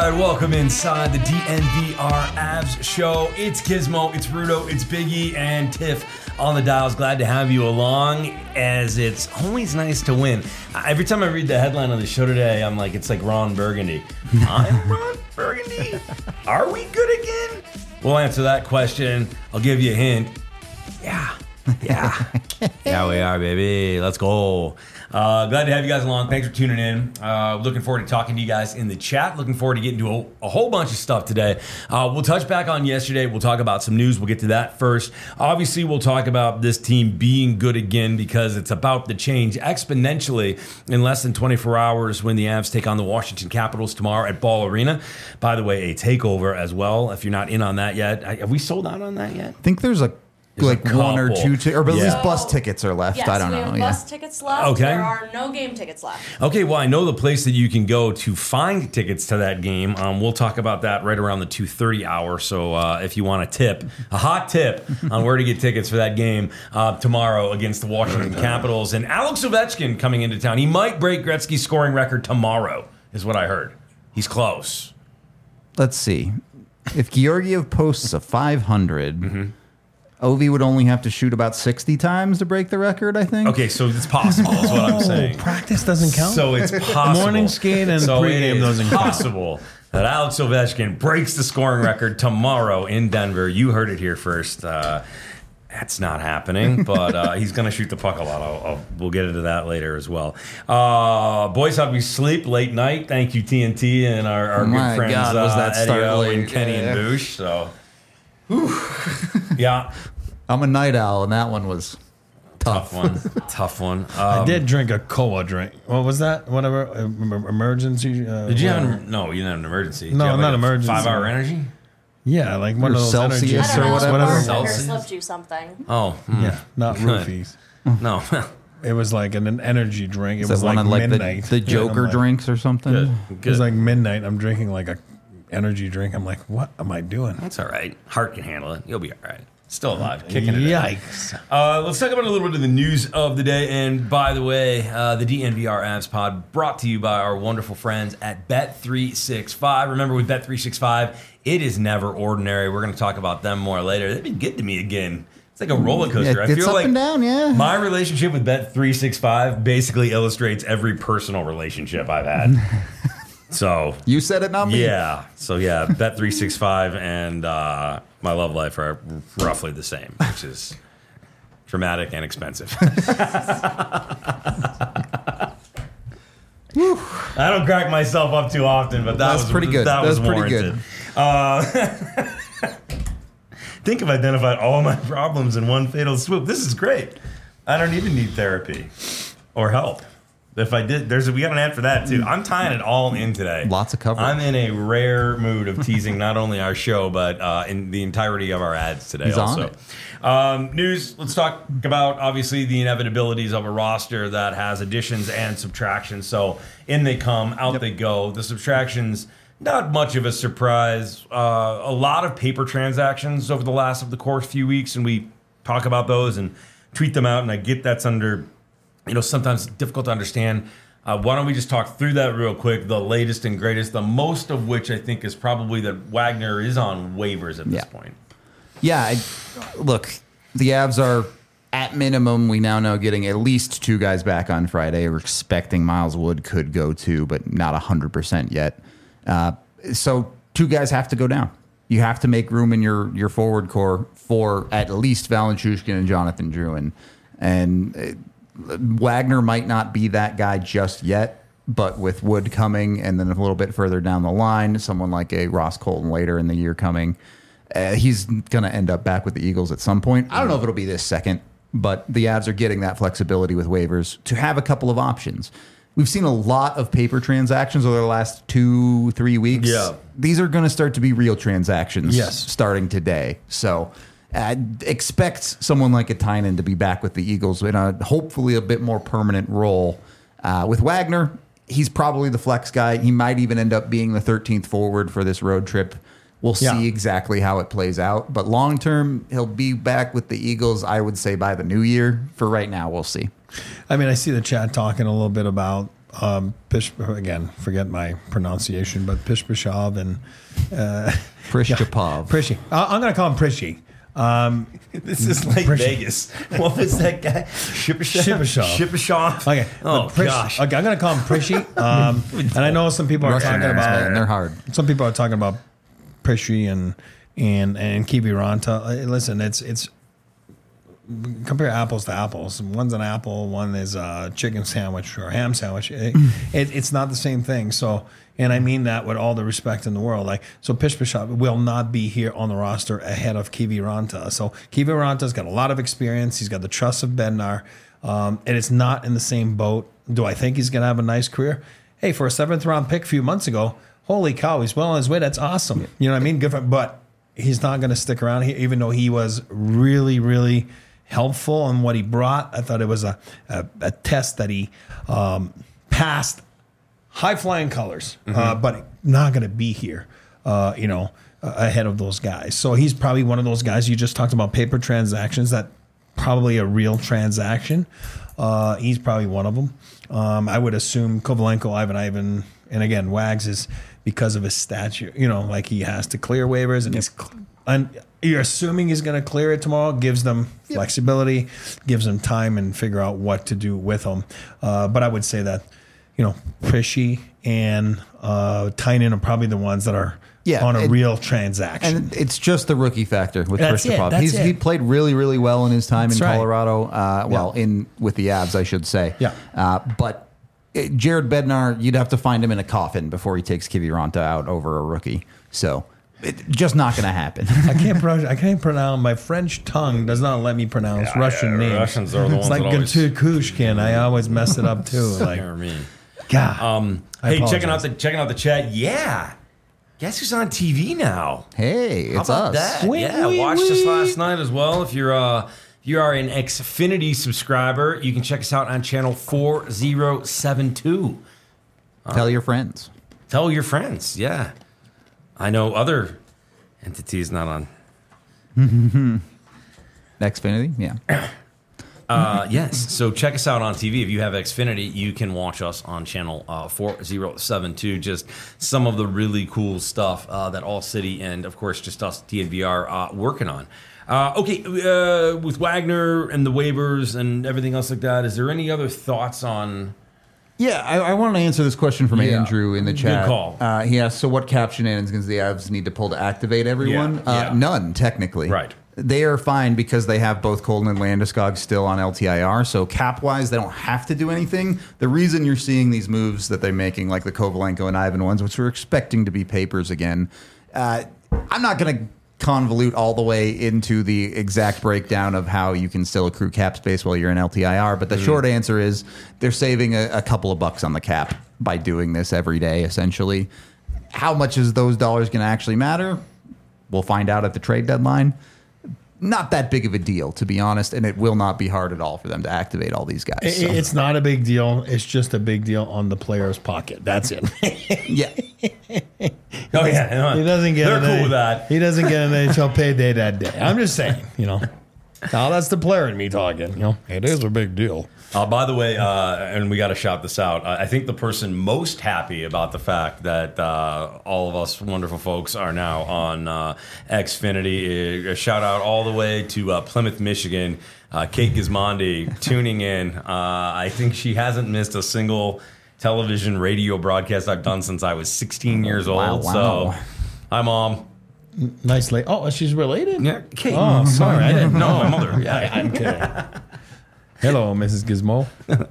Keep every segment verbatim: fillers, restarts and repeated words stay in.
right, welcome inside the D N V R Avs show. It's Gizmo, it's Rudo, it's Biggie, and Tiff on the dials. Glad to have you along, as it's always nice to win. Every time I read the headline on the show today, I'm like, it's like Ron Burgundy. I'm Ron Burgundy? Are we good again? We'll answer that question. I'll give you a hint. Yeah. Yeah. Yeah, we are, baby. Let's go. Uh, glad to have you guys along. Thanks for tuning in. Uh, looking forward to talking to you guys in the chat. Looking forward to getting to a, a whole bunch of stuff today. Uh, we'll touch back on yesterday. We'll talk about some news. We'll get to that first. Obviously, we'll talk about this team being good again, because it's about to change exponentially in less than twenty-four hours when the Avs take on the Washington Capitals tomorrow at Ball Arena. By the way, a takeover as well. If you're not in on that yet, have we sold out on that yet? I think there's a There's like one or two, t- or at yeah. least bus tickets are left. Yes, I don't we know. have Yeah. bus tickets left. Okay. There are no game tickets left. Okay, well, I know the place that you can go to find tickets to that game. Um, we'll talk about that right around the two thirty hour. So uh, if you want a tip, a hot tip on where to get tickets for that game uh, tomorrow against the Washington Capitals. And Alex Ovechkin coming into town. He might break Gretzky's scoring record tomorrow, is what I heard. He's close. Let's see. If Georgiev posts a five hundred... Mm-hmm. Ovi would only have to shoot about sixty times to break the record, I think. Okay, so it's possible, is what I'm saying. Practice doesn't count? So it's possible. Morning skate and so pregame doesn't count. possible that Alex Ovechkin breaks the scoring record tomorrow in Denver. You heard it here first. Uh, that's not happening, but uh, he's going to shoot the puck a lot. I'll, I'll, we'll get into that later as well. Uh, boys, how'd we sleep late night? Thank you, T N T, and our, our Oh my good friends God, was that uh, start Eddie O late? and Kenny Yeah. and Boosh. So, yeah. I'm a night owl, and that one was tough. Tough one. Tough one. Um, I did drink a cola drink. What was that? Whatever. uh, em- Emergency? Uh, Did you have whatever. an, no, you didn't have an emergency. Did No, you have not like a emergency. Five-hour energy? Yeah, like one Or of those Celsius energy I Yes, don't or know. whatever. The bartender Celsius. slipped you something. Oh, hmm. Yeah, not Good. roofies. No. It was like an, an energy drink. It Is was that one like of like midnight. the, the Yeah, I'm Joker like- drinks or something? Good. It Good. was like midnight. I'm drinking like a energy drink. I'm like, what am I doing? That's all right. Heart can handle it. You'll be all right. Still alive. Kicking it. Yikes. Uh, let's talk about a little bit of the news of the day. And by the way, uh, the D N V R Avs pod brought to you by our wonderful friends at Bet three sixty-five. Remember, with Bet three sixty-five, it is never ordinary. We're going to talk about them more later. They've been good to me again. It's like a roller coaster. Yeah, I it's feel up like and down, yeah. my relationship with Bet three sixty-five basically illustrates every personal relationship I've had. So You said it, not me. yeah. So yeah, Bet three sixty-five and uh, my love life are roughly the same, which is dramatic and expensive. I don't crack myself up too often, but that That's was pretty good. That That's was pretty warranted. good. Uh, think I've identified all my problems in one fatal swoop. This is great. I don't even need therapy or help. If I did, there's a, we got an ad for that too. I'm tying it all in today. Lots of coverage. I'm in a rare mood of teasing not only our show, but uh, in the entirety of our ads today. He's on also, it. Um, news. Let's talk about obviously the inevitabilities of a roster that has additions and subtractions. So in they come, out they go. The subtractions, not much of a surprise. Uh, a lot of paper transactions over the last of the course few weeks, and we talk about those and tweet them out. And I get that's under. You know, sometimes difficult to understand. Uh, why don't we just talk through that real quick? The latest and greatest, the most of which I think is probably that Wagner is on waivers at this Yeah. point. Yeah, I, look, the Avs are at minimum. We now know getting at least two guys back on Friday. We're expecting Miles Wood could go too, but not one hundred percent yet. Uh, so two guys have to go down. You have to make room in your, your forward core for at least Valenchushkin and Jonathan Drouin. And uh, Wagner might not be that guy just yet, but with Wood coming and then a little bit further down the line, someone like a Ross Colton later in the year coming, uh, he's going to end up back with the Eagles at some point. I don't know if it'll be this second, but the Avs are getting that flexibility with waivers to have a couple of options. We've seen a lot of paper transactions over the last two, three weeks. Yeah. These are going to start to be real transactions Yes. starting today. So uh, expect someone like a Tynan to be back with the Eagles in a hopefully a bit more permanent role. Uh, with Wagner, he's probably the flex guy. He might even end up being the thirteenth forward for this road trip. We'll Yeah. see exactly how it plays out. But long term, he'll be back with the Eagles, I would say, by the new year. For right now, we'll see. I mean, I see the chat talking a little bit about um, Pish, again, forget my pronunciation, but Pishpashov and uh, Prishchapov. Prishy. Uh, I'm going to call him Prishy. Um, This is like Prish- Vegas. What was that guy? Shipashov. Shipashov. Shipashov. Okay. Oh, but Prish- gosh. Okay, I'm going to call him Prishy. Um, and I know some people are Russian talking names, about. man, they're hard. Some people are talking about Prishy and and and Kiviranta. Uh, Listen, it's it's compare apples to apples. One's an apple, one is a chicken sandwich or a ham sandwich. It, it, it's not the same thing. So, and I mean that with all the respect in the world. Like, so Pishpashov will not be here on the roster ahead of Kiviranta. So Kiviranta's got a lot of experience. He's got the trust of Bednar, um, and it's not in the same boat. Do I think he's going to have a nice career? Hey, for a seventh round pick a few months ago, holy cow, he's well on his way. That's awesome. You know what I mean? Good for, but he's not going to stick around here, even though he was really, really helpful in what he brought. I thought it was a, a, a test that he um, passed high flying colors, mm-hmm. uh, but not going to be here, uh, you know, uh, ahead of those guys. So he's probably one of those guys you just talked about paper transactions that probably a real transaction. Uh, he's probably one of them. Um, I would assume Kovalenko, Ivan Ivan, and again, Wags is because of his statute, you know, like he has to clear waivers and he's, and you're assuming he's going to clear it tomorrow, gives them yep. flexibility, gives them time and figure out what to do with them. Uh, but I would say that, you know, Prishy and uh, Tynan are probably the ones that are yeah, on a and, real transaction. And it's just the rookie factor with that's Prishchapov. It, He's it. He played really, really well in his time that's in right. Colorado. Uh, well, yeah. in with the Avs, I should say. Yeah. Uh, but it, Jared Bednar, you'd have to find him in a coffin before he takes Kiviranta out over a rookie. So it, just not going to happen. I can't pronounce. I can't pronounce. My French tongue does not let me pronounce yeah, Russian yeah, names. Russians are the it's ones like that always... Gatukushkin. I always mess it up too. Like, You're me. God. Um, I hey, apologize. checking out the checking out the chat. Yeah, guess who's on T V now? Hey, it's How about us. that? Wee, yeah, wee, watched wee. us last night as well. If you're uh, if you are an Xfinity subscriber, you can check us out on channel four zero seven two. Tell your friends. Tell your friends. Yeah, I know other entities not on Xfinity, yeah. Uh, yes. So check us out on T V. If you have Xfinity, you can watch us on channel uh, four zero seven two. Just some of the really cool stuff uh, that All City and, of course, just us, D N V R, uh, working on. Uh, okay, uh, with Wagner and the waivers and everything else like that, is there any other thoughts on... Yeah, I, I wanted to answer this question from Yeah. Andrew in the Good chat. call. Uh, he asked, so what cap shenanigans the Avs need to pull to activate everyone? Yeah, Uh, yeah. None, technically. Right. They are fine because they have both Colton and Landeskog still on L T I R. So cap-wise, they don't have to do anything. The reason you're seeing these moves that they're making, like the Kovalenko and Ivan ones, which we're expecting to be papers again, uh, I'm not going to convolute all the way into the exact breakdown of how you can still accrue cap space while you're in L T I R. But the mm. short answer is they're saving a, a couple of bucks on the cap by doing this every day, essentially. How much is those dollars going to actually matter? We'll find out at the trade deadline. Not that big of a deal, to be honest, and it will not be hard at all for them to activate all these guys. It, so. It's not a big deal. It's just a big deal on the player's pocket. That's it. Yeah. Oh, yeah. He doesn't get They're an cool A- with that. He doesn't get an N H L payday that day. I'm just saying, you know. Now that's the player in me talking. You know, it is a big deal. Uh, by the way, uh, and we got to shout this out, uh, I think the person most happy about the fact that uh, all of us wonderful folks are now on uh, Xfinity, a shout out all the way to uh, Plymouth, Michigan, uh, Kate Gismondi tuning in. Uh, I think she hasn't missed a single television radio broadcast I've done since I was sixteen years old. Wow, wow. So, hi, Mom. Nice lady. Oh, she's related? Yeah, Kate. Oh, sorry. I didn't know. No, my mother. Yeah. I, I'm kidding. Hello, Missus Gizmo.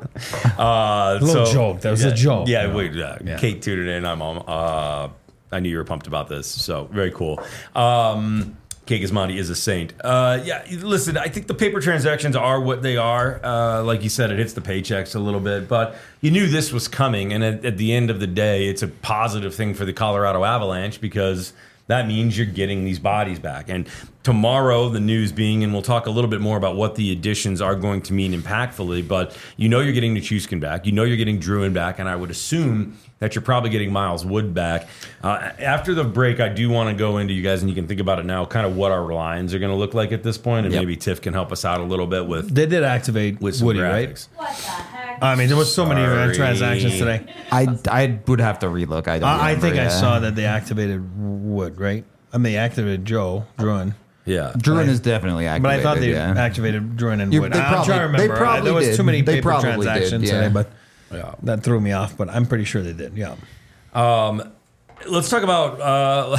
Uh, A little so- joke. That was a yeah, joke. Yeah, Yeah. wait. Uh, Yeah. Kate tuned in. I'm mom. Uh, I knew you were pumped about this, so very cool. Um, Kate Gismondi is a saint. Uh, yeah, listen, I think the paper transactions are what they are. Uh, like you said, it hits the paychecks a little bit, but you knew this was coming, and at, at the end of the day, it's a positive thing for the Colorado Avalanche because that means you're getting these bodies back. And tomorrow, the news being, and we'll talk a little bit more about what the additions are going to mean impactfully, but you know you're getting Nichushkin back. You know you're getting Druin back, and I would assume that you're probably getting Miles Wood back. Uh, after the break, I do want to go into you guys, and you can think about it now, kind of what our lines are going to look like at this point, and Yep. maybe Tiff can help us out a little bit with, They did activate with some Woody, graphics. right? What the heck? I mean, there was so many uh, Sorry. transactions today. I, I would have to relook. I don't. I, I remember, think I yeah. saw that they activated Wood, right? I mean, they activated Joe Druin. Yeah. Druin I- is definitely activated. But I thought they yeah. activated Druin and You- Wood. they I'm probably- trying to they remember. probably there was did. too many They paper probably did, transactions yeah. today, but Yeah. that threw me off. But I'm pretty sure they did. Yeah. Let's talk about. Uh,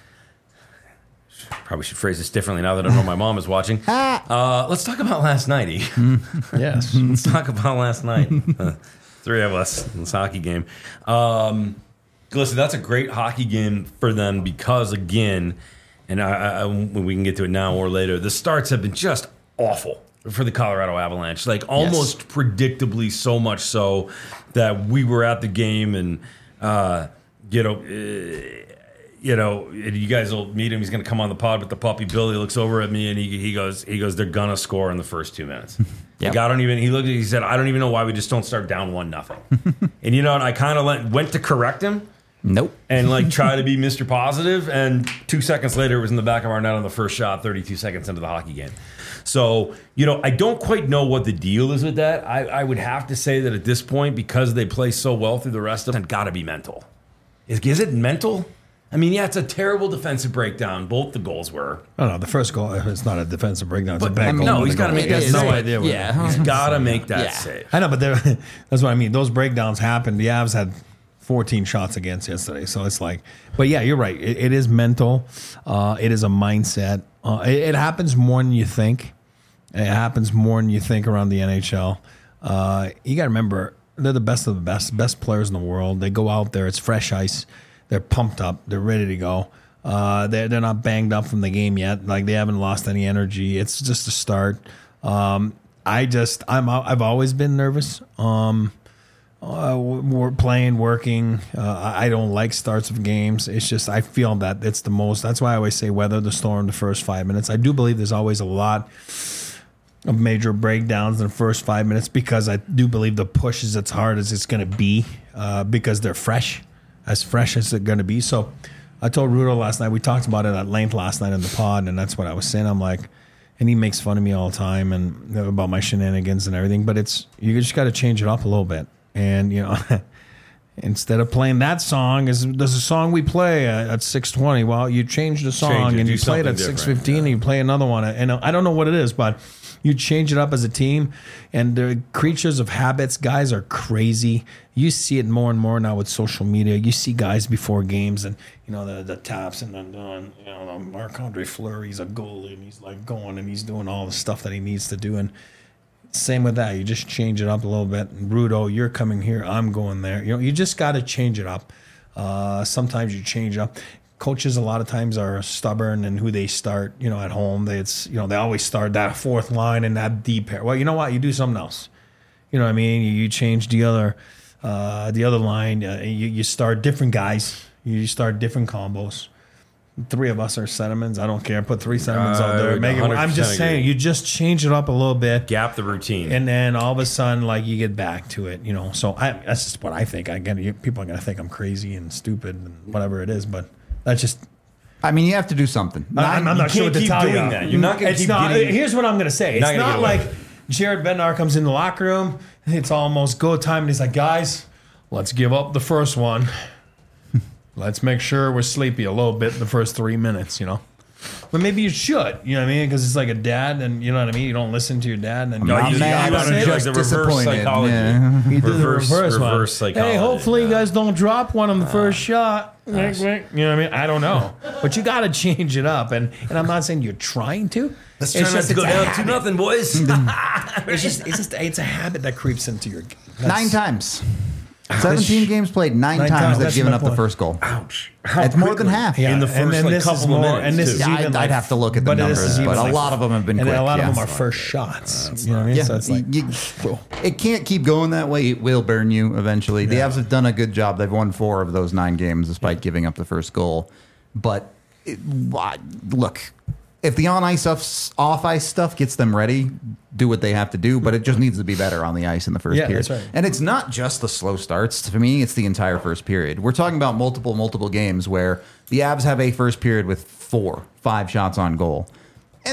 probably should phrase this differently now that I know my mom is watching. Uh, let's talk about last night. E. Yes. Let's talk about last night. Uh, three of us in this hockey game. Um, listen, that's a great hockey game for them because, again, and I, I, we can get to it now or later, the starts have been just awful for the Colorado Avalanche. Like almost predictably so much so that we were at the game and, uh, you know, uh, you know, you guys will meet him. He's going to come on the pod with the puppy. Billy looks over at me and he, he goes, he goes, they're gonna score in the first two minutes. Yep. Like, I don't even. He looked. He said, I don't even know why we just don't start down one nothing. And you know, and I kind of went to correct him Nope. and like try to be Mister Positive. And two seconds later, it was in the back of our net on the first shot. thirty-two seconds into the hockey game. So you know, I don't quite know what the deal is with that. I, I would have to say that at this point, because they play so well through the rest of it, got to be mental. Is is it mental? I mean, yeah, it's a terrible defensive breakdown. Both the goals were. Oh no, the first goal. It's not a defensive breakdown. It's But a bad I mean, goal. no, he's got to make He that has no save. idea. What Yeah. He's got to make that Yeah. save. I know, but there- that's what I mean. Those breakdowns happened. The Avs had fourteen shots against yesterday, so it's like. But yeah, you're right. It, it is mental. Uh, it is a mindset. Uh, it, it happens more than you think. It happens more than you think around the N H L. Uh, you got to remember, they're the best of the best, best players in the world. They go out there. It's fresh ice. They're pumped up. They're ready to go. Uh, they're they're not banged up from the game yet. Like they haven't lost any energy. It's just a start. Um, I just I'm I've always been nervous. Um, uh, we're playing, working. Uh, I I don't like starts of games. It's just I feel that it's the most. That's why I always say weather the storm the first five minutes. I do believe there's always a lot of major breakdowns in the first five minutes because I do believe the push is as hard as it's going to be uh, because they're fresh, as fresh as they're going to be. So I told Rudo last night, we talked about it at length last night in the pod, and that's what I was saying. I'm like, and he makes fun of me all the time and about my shenanigans and everything, but it's, you just got to change it up a little bit. And, you know, instead of playing that song, is there's a song we play at, at six twenty. Well, you change the song Change it, and do you play it something at six different, fifteen yeah. and you play another one. And I don't know what it is, but you change it up as a team, and they're creatures of habits. Guys are crazy. You see it more and more now with social media. You see guys before games, and you know the the taps and then doing, you know, Marc-Andre Fleury's a goalie, and he's like going and he's doing all the stuff that he needs to do. And same with that, you just change it up a little bit. And Rudo, you're coming here, I'm going there. You know, you just got to change it up. Uh, sometimes you change up. Coaches a lot of times are stubborn in who they start. You know, at home, they it's you know they always start that fourth line and that deep pair. Well, you know what? You do something else. You know what I mean? You, you change the other uh, the other line. Uh, you, you start different guys. You start different combos. Three of us are sentiments. I don't care. Put three sentiments out I there. would Make it, one hundred I'm just percent saying, agree. you just change it up a little bit. Gap the routine. And then all of a sudden, like you get back to it, you know. So I, that's just what I think. I get people are gonna think I'm crazy and stupid and whatever it is, but that's just. I mean, you have to do something. I'm, I'm you not sure what can't to keep tell doing you. that. You're not gonna It's keep not. getting- Here's what I'm gonna say. It's not gonna not get away like with Jared Bednar comes in the locker room. It's almost go time, and he's like, "Guys, let's give up the first one. Let's make sure we're sleepy a little bit in the first three minutes." You know. But maybe you should, you know what I mean? Because it's like a dad, and you know what I mean? You don't listen to your dad. And No, Not you, mad, you wanna I'm do just like the reverse disappointed. psychology. Yeah. He did the Reverse- reverse, one. reverse psychology, Hey, hopefully you yeah. guys don't drop one on the first shot. Wink, wink. You know what I mean? I don't know. But you got to change it up. And and I'm not saying you're trying to. Let's It's try not just- to go it's a down habit. two nothing, boys. It's just, it's just it's a habit that creeps into your game. Nine times. seventeen games played, nine, Nine times times, they've that's given my up the point. first goal. Ouch. It's more than half. Yeah, In the and first, then like, this couple is more, minutes, and this too. is Yeah, even I'd- like, I'd have to look at the but this numbers, is even but a like- lot of them have been and quick, a lot yeah. of them are That's first shots. You know what I mean? Yeah, So it's like, you- it can't keep going that way. It will burn you eventually. The Yeah. Avs have done a good job. They've won four of those nine games despite giving up the first goal. But it, why- look, if the on ice stuff, off ice stuff gets them ready, do what they have to do. But it just needs to be better on the ice in the first Yeah, period. that's right. And it's not just the slow starts. For me, it's the entire first period. We're talking about multiple, multiple games where the Avs have a first period with four, five shots on goal. And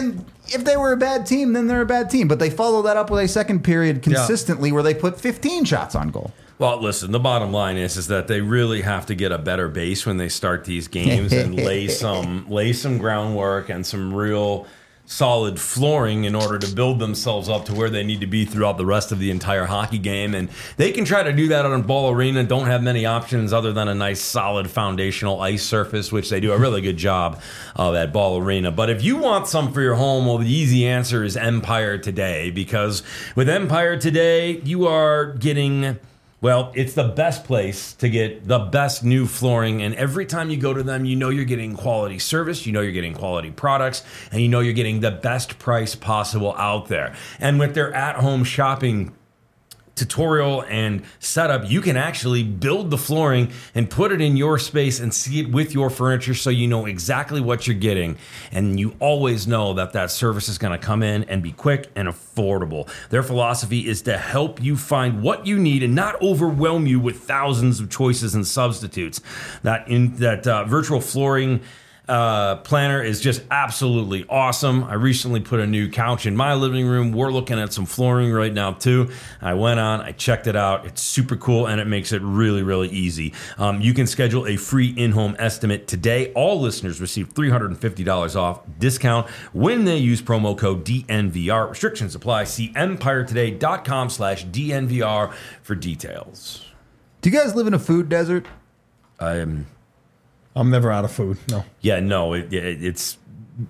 if they were a bad team, then they're a bad team. But they follow that up with a second period consistently yeah. where they put fifteen shots on goal. Well, listen, the bottom line is is that they really have to get a better base when they start these games and lay some lay some groundwork and some real solid flooring in order to build themselves up to where they need to be throughout the rest of the entire hockey game. And they can try to do that on Ball Arena. Don't have many options other than a nice solid foundational ice surface, which they do a really good job of at Ball Arena. But if you want some for your home, well, the easy answer is Empire Today, because with Empire Today, you are getting... Well, it's the best place to get the best new flooring, and every time you go to them, you know you're getting quality service, you know you're getting quality products, and you know you're getting the best price possible out there. And with their at-home shopping tutorial and setup, you can actually build the flooring and put it in your space and see it with your furniture so you know exactly what you're getting. And you always know that that service is going to come in and be quick and affordable. Their philosophy is to help you find what you need and not overwhelm you with thousands of choices and substitutes. That in that uh, virtual flooring Uh, planner is just absolutely awesome. I recently put a new couch in my living room. We're looking at some flooring right now too. I went on, I checked it out. It's super cool and it makes it really, really easy. Um, you can schedule a free in-home estimate today. All listeners receive three hundred fifty dollars off discount when they use promo code D N V R. Restrictions apply. See empiretoday.com slash DNVR for details. Do you guys live in a food desert? I am... I'm never out of food. No. Yeah, no, it, it, it's,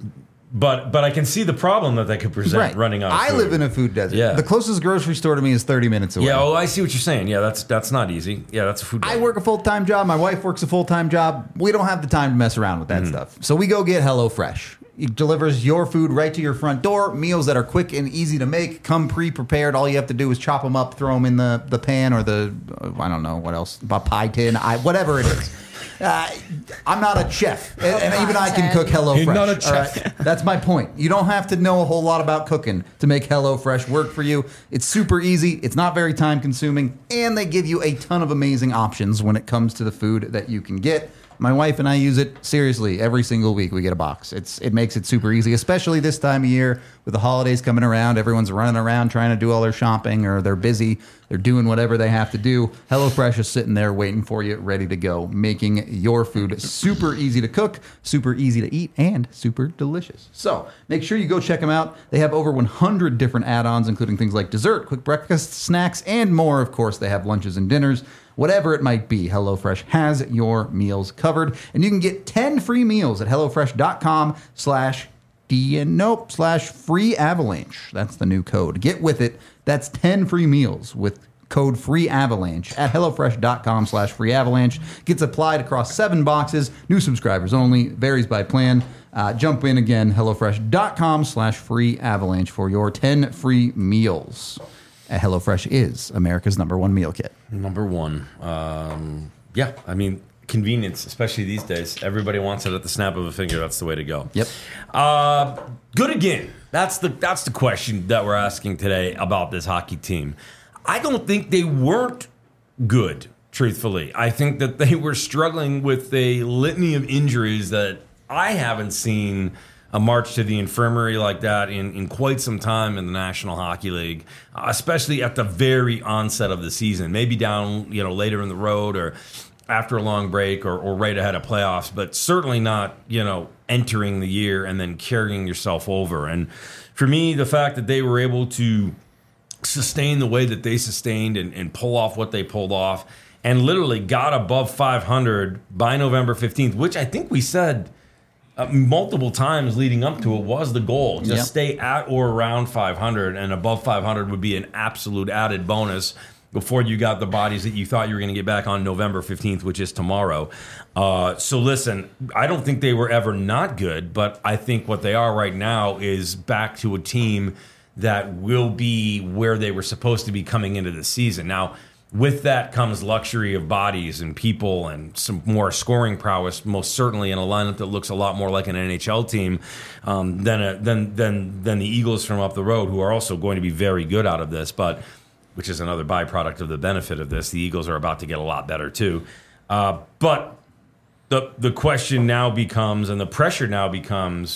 but but I can see the problem that that could present right. running out of I food. live in a food desert. Yeah. The closest grocery store to me is thirty minutes away. Yeah, oh, I see what you're saying. Yeah, that's that's not easy. Yeah, that's a food desert. I work a full-time job. My wife works a full-time job. We don't have the time to mess around with that mm-hmm. stuff. So we go get HelloFresh. It delivers your food right to your front door. Meals that are quick and easy to make, come pre-prepared. All you have to do is chop them up, throw them in the, the pan or the, uh, I don't know, what else, a pie tin, I, whatever it is. Uh, I'm not a chef, and, and even I can cook HelloFresh. You're not a chef. Right? That's my point. You don't have to know a whole lot about cooking to make HelloFresh work for you. It's super easy. It's not very time consuming, and they give you a ton of amazing options when it comes to the food that you can get. My wife and I use it seriously every single week. We get a box. It's it makes it super easy, especially this time of year with the holidays coming around. Everyone's running around trying to do all their shopping, or they're busy. They're doing whatever they have to do. HelloFresh is sitting there waiting for you, ready to go, making your food super easy to cook, super easy to eat, and super delicious. So make sure you go check them out. They have over one hundred different add-ons, including things like dessert, quick breakfast, snacks, and more. Of course, they have lunches and dinners. Whatever it might be, HelloFresh has your meals covered. And you can get ten free meals at HelloFresh.com slash D N nope, slash free avalanche. That's the new code. Get with it. That's ten free meals with code free avalanche at HelloFresh.com slash free avalanche. Gets applied across seven boxes. New subscribers only. Varies by plan. Uh, jump in again, HelloFresh.com slash free avalanche for your ten free meals. Uh, HelloFresh is America's number one meal kit. Number one. Um, yeah, I mean, convenience, especially these days. Everybody wants it at the snap of a finger. That's the way to go. Yep. Uh, good again. That's the that's the question that we're asking today about this hockey team. I don't think they weren't good, truthfully. I think that they were struggling with a litany of injuries that I haven't seen a march to the infirmary like that in, in quite some time in the National Hockey League, uh, especially at the very onset of the season. Maybe down, you know, later in the road or after a long break or, or right ahead of playoffs, but certainly not, you know, entering the year and then carrying yourself over. And for me, the fact that they were able to sustain the way that they sustained and, and pull off what they pulled off and literally got above five hundred by November fifteenth, which I think we said Uh, multiple times leading up to it was the goal. Just yep. stay at or around five hundred, and above five hundred would be an absolute added bonus before you got the bodies that you thought you were going to get back on November fifteenth, which is tomorrow. Uh, so listen, I don't think they were ever not good, but I think what they are right now is back to a team that will be where they were supposed to be coming into the season. Now, with that comes luxury of bodies and people and some more scoring prowess, most certainly in a lineup that looks a lot more like an N H L team um, than, a, than than than the Eagles from up the road, who are also going to be very good out of this, but which is another byproduct of the benefit of this. The Eagles are about to get a lot better too. Uh, but the the question now becomes, and the pressure now becomes,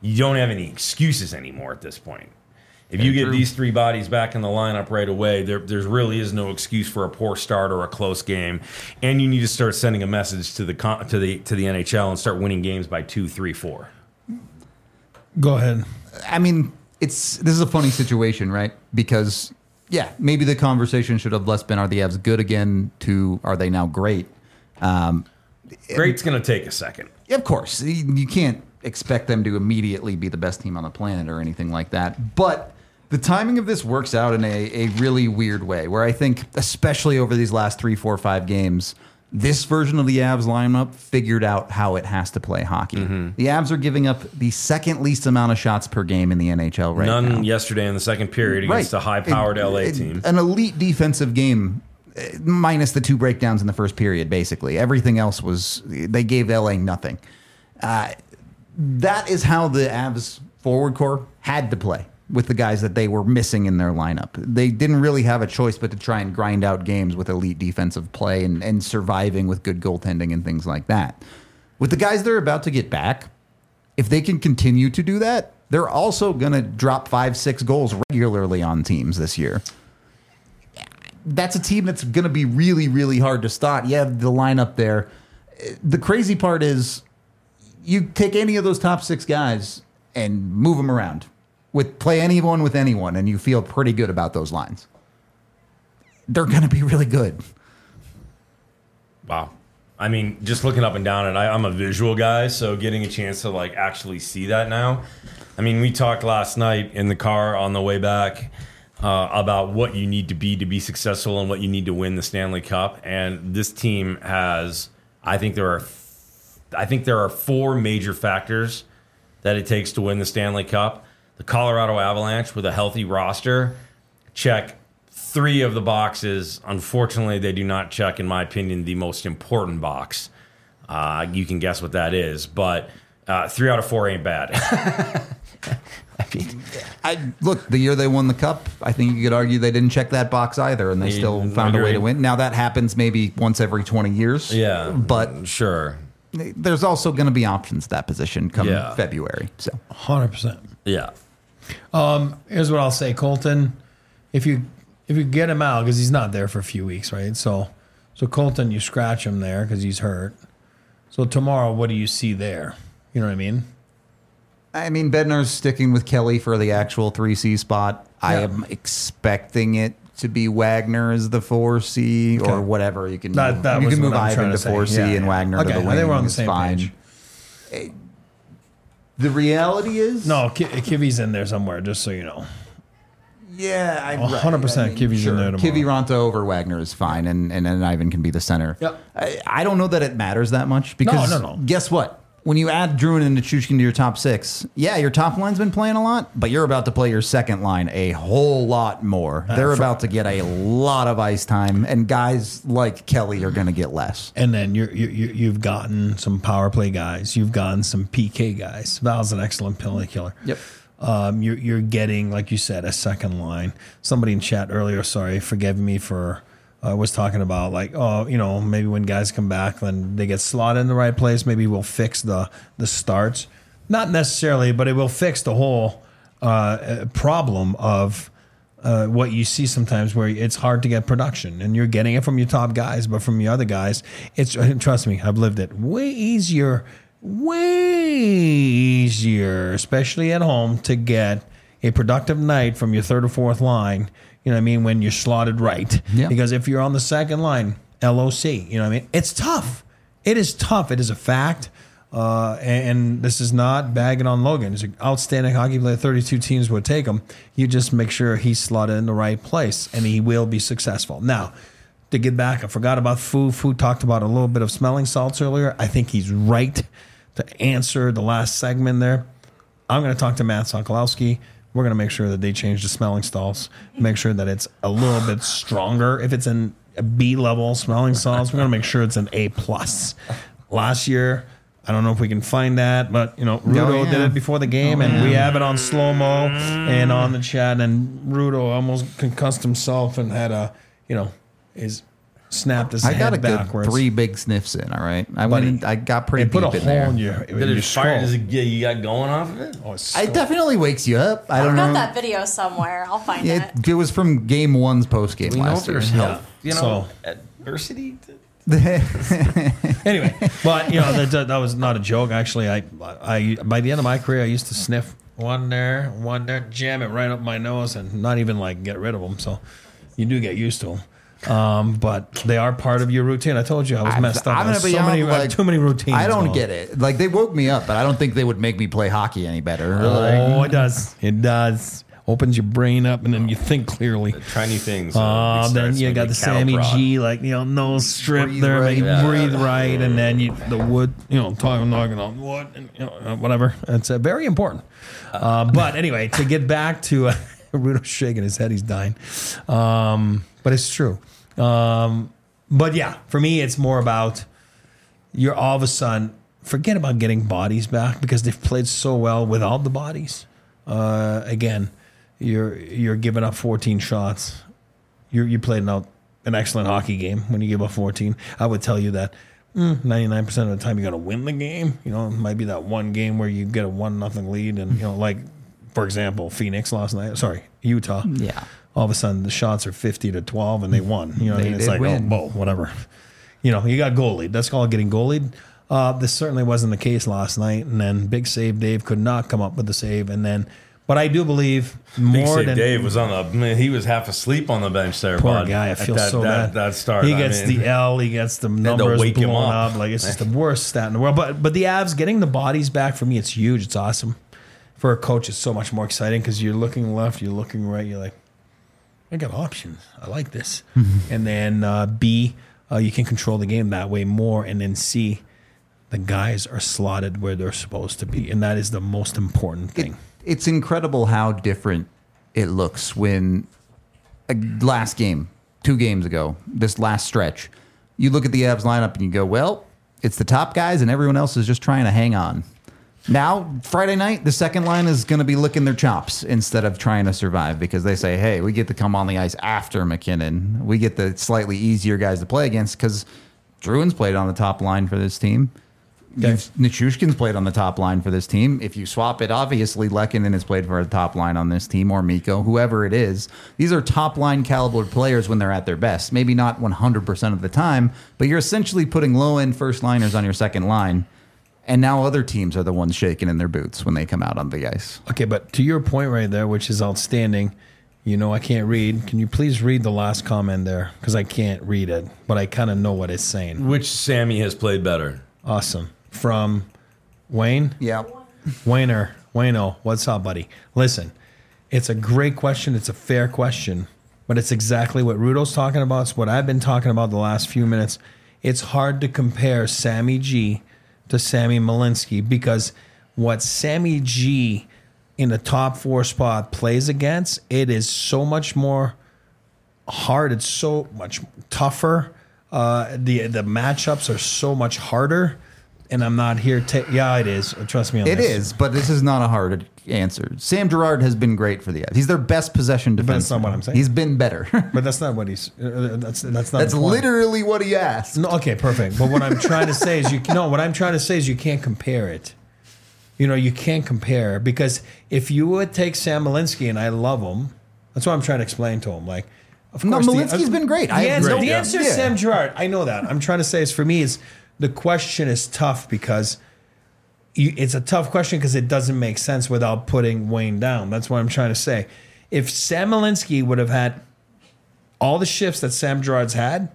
you don't have any excuses anymore at this point. If you Very get true. these three bodies back in the lineup right away, there there really is no excuse for a poor start or a close game, and you need to start sending a message to the con- to the to the N H L and start winning games by two, three, four. Go ahead. I mean, it's this is a funny situation, right? Because yeah, maybe the conversation should have less been, are the Avs good again, to are they now great? Um, Great's going to take a second. Of course, you you can't expect them to immediately be the best team on the planet or anything like that. But the timing of this works out in a, a really weird way, where I think, especially over these last three, four, five games, this version of the Avs lineup figured out how it has to play hockey. Mm-hmm. The Avs are giving up the second least amount of shots per game in the N H L right None now. yesterday in the second period against Right. a high-powered It- L A it- team. An elite defensive game, eh, minus the two breakdowns in the first period, basically. Everything else was, they gave L A nothing. Uh, that is how the Avs forward core had to play with the guys that they were missing in their lineup. They didn't really have a choice but to try and grind out games with elite defensive play and, and surviving with good goaltending and things like that. With the guys they're about to get back, if they can continue to do that, they're also going to drop five, six goals regularly on teams this year. That's a team that's going to be really, really hard to stop. You have the lineup there. The crazy part is you take any of those top six guys and move them around. With play anyone with anyone, and you feel pretty good about those lines. They're going to be really good. Wow. I mean, just looking up and down it, I, I'm a visual guy, so getting a chance to like actually see that now. I mean, we talked last night in the car on the way back uh, about what you need to be to be successful and what you need to win the Stanley Cup. And this team has, I think there are, I think there are four major factors that it takes to win the Stanley Cup. The Colorado Avalanche with a healthy roster check three of the boxes. Unfortunately, they do not check, in my opinion, the most important box. Uh, you can guess what that is, but uh, three out of four ain't bad. I mean, I look, the year they won the cup, I think you could argue they didn't check that box either, and they Yeah, still found a way to agreed. win. Now that happens maybe once every twenty years. yeah, but sure. there's also going to be options at that position come Yeah. February. So one hundred percent. Yeah. Here's what I'll say, Colton. If you if you get him out, because he's not there for a few weeks, right? So so Colton, you scratch him there because he's hurt. So tomorrow, what do you see there? You know what I mean? I mean, Bednar's sticking with Kelly for the actual three C spot. I Yeah. am expecting it to be Wagner as the four C Okay. or whatever. You can That- move, that you was can move what I'm Ivan trying to to say. four C Yeah, and yeah. Wagner Okay, to I the think wing. we're on the It's same fine. page. The reality is, No, Ki- Kivi's in there somewhere, just so you know. yeah, I, one hundred percent Kivi's in there tomorrow. Kivi Ronto over Wagner is fine, and, and then Ivan can be the center. Yep. I, I don't know that it matters that much because No, no, no. guess what? When you add Druin and Nichushkin to your top six, yeah, your top line's been playing a lot, but you're about to play your second line a whole lot more. They're for- about to get a lot of ice time, and guys like Kelly are going to get less. And then you're, you you you've gotten some power play guys. You've gotten some P K guys. Val's an excellent penalty killer. Yep. Um, you're you're getting, like you said, a second line. Somebody in chat earlier, sorry, forgive me for uh, was talking about like, oh, you know, maybe when guys come back, then they get slotted in the right place. Maybe we'll fix the the starts. Not necessarily, but it will fix the whole uh, problem of uh, what you see sometimes where it's hard to get production, and you're getting it from your top guys, but from your other guys, it's trust me, I've lived it. Way easier, way easier, especially at home, to get a productive night from your third or fourth line. You know what I mean? When you're slotted right, Yeah. because if you're on the second line, L O C, you know what I mean? It's tough. It is tough. It is a fact. Uh, and, and this is not bagging on Logan. He's an outstanding hockey player. thirty-two teams would take him. You just make sure he's slotted in the right place, and he will be successful. Now, to get back, I forgot about Fu. Fu talked about a little bit of smelling salts earlier. I think he's right to answer the last segment there. I'm going to talk to Matt Sokolowski. We're going to make sure that they change the smelling salts, make sure that it's a little bit stronger. If it's in a B level smelling salts, we're going to make sure it's an A plus. Last year, I don't know if we can find that, but you know, Rudo yeah. did it before the game, Oh, and yeah. we have it on slow mo and on the chat. And Rudo almost concussed himself and had a, you know, his snapped his I head got a good backwards. three big sniffs in. All right, I Buddy, went. In, I got pretty It put a deep in hole there. in your, in Did your it fire? skull. Does it get you got going off of it? Oh, it's It definitely wakes you up. I I've don't got know. that video somewhere. I'll find It, it. it was from game one's post game We know if last year. there's health, you know, So- adversity. Anyway, but you know that, that, that was not a joke. Actually, I, I by the end of my career, I used to sniff one there, one there, jam it right up my nose, and not even like get rid of them. So you do get used to them. Um, but they are part of your routine. I told you I was messed up. I'm I gonna was be so honest, many, I have like, too many routines. I don't going. get it. Like they woke me up, but I don't think they would make me play hockey any better. Oh, it does. It does. Opens your brain up, and then you think clearly. Try new things. Uh, then you got the Sammy G, like, you know, nose strip Breathe there, right. make you Yeah. breathe right, and then you the wood, you know, talking, knocking on wood, and you know, uh, whatever. It's uh, very important. Uh, but anyway, to get back to uh, Rudo's shaking his head, he's dying. Um, but it's true. Um, but yeah, for me, it's more about you're all of a sudden forget about getting bodies back because they've played so well without the bodies. Uh, again. You're you're giving up fourteen shots. You're you played out an excellent hockey game when you give up fourteen. I would tell you that ninety-nine percent of the time you're going to win the game. You know, it might be that one game where you get a one nothing lead, and you know, like for example, Phoenix last night. Sorry, Utah. Yeah. All of a sudden the shots are fifty to twelve, and they won. You know, what I They mean? It's did like win. oh, whoa, whatever. You know, you got goal lead. That's called getting goal lead. Uh, this certainly wasn't the case last night. And then big save Dave could not come up with the save, and then. But I do believe Big more Save than Dave was on the. Man, he was half asleep on the bench there. poor bud, guy. I at feel that, so that, bad. That start. He I gets mean, the L. He gets the to numbers wake him blown up. up. Like it's just the worst stat in the world. But but the Avs getting the bodies back for me, it's huge. It's awesome. For a coach, it's so much more exciting because you're looking left, you're looking right. You're like, I got options. I like this. And then uh, B, uh, you can control the game that way more. And then C, the guys are slotted where they're supposed to be, and that is the most important thing. It, it's incredible how different it looks when uh, last game, two games ago, this last stretch, you look at the Avs lineup and you go, well, it's the top guys and everyone else is just trying to hang on. Now, Friday night, the second line is going to be licking their chops instead of trying to survive because they say, hey, we get to come on the ice after McKinnon. We get the slightly easier guys to play against because Druin's played on the top line for this team. Okay. Nichushkin's played on the top line for this team. If you swap it, obviously Lehkonen has played for the top line on this team, or Mikko, whoever it is. These are top line caliber players when they're at their best. Maybe not one hundred percent of the time, but you're essentially putting low end first liners on your second line. And now other teams are the ones shaking in their boots when they come out on the ice. Okay, but to your point right there, which is outstanding, you know, I can't read. Can you please read the last comment there? Because I can't read it, but I kind of know what it's saying. Which Sammy has played better? Awesome. From Wayne? Yeah. Wayner. Wayno, what's up, buddy? Listen, it's a great question. It's a fair question, but it's exactly what Rudo's talking about. It's what I've been talking about the last few minutes. It's hard to compare Sammy G to Sammy Malinsky because what Sammy G in the top four spot plays against, it is so much more hard. It's so much tougher. Uh, the the matchups are so much harder. And I'm not here to. Yeah, it is. Trust me on It this. is, but this is not a hard answer. Sam Girard has been great for the Avs. He's their best possession defenseman. that's not what I'm saying. He's been better. But that's not what he's. Uh, that's that's not. That's the point. literally what he asked. No, okay, perfect. But what I'm trying to say is you no. What I'm trying to say is you can't compare it. You know, you can't compare because if you would take Sam Malinsky, and I love him, that's what I'm trying to explain to him. Like, of No, course, Malinsky's been great. The I have answer, no- the yeah. answer is Yeah. Sam Girard. I know that. I'm trying to say is for me is the question is tough because. You, it's a tough question because it doesn't make sense without putting Wayne down. That's what I'm trying to say. If Sam Malinsky would have had all the shifts that Sam Girard's had,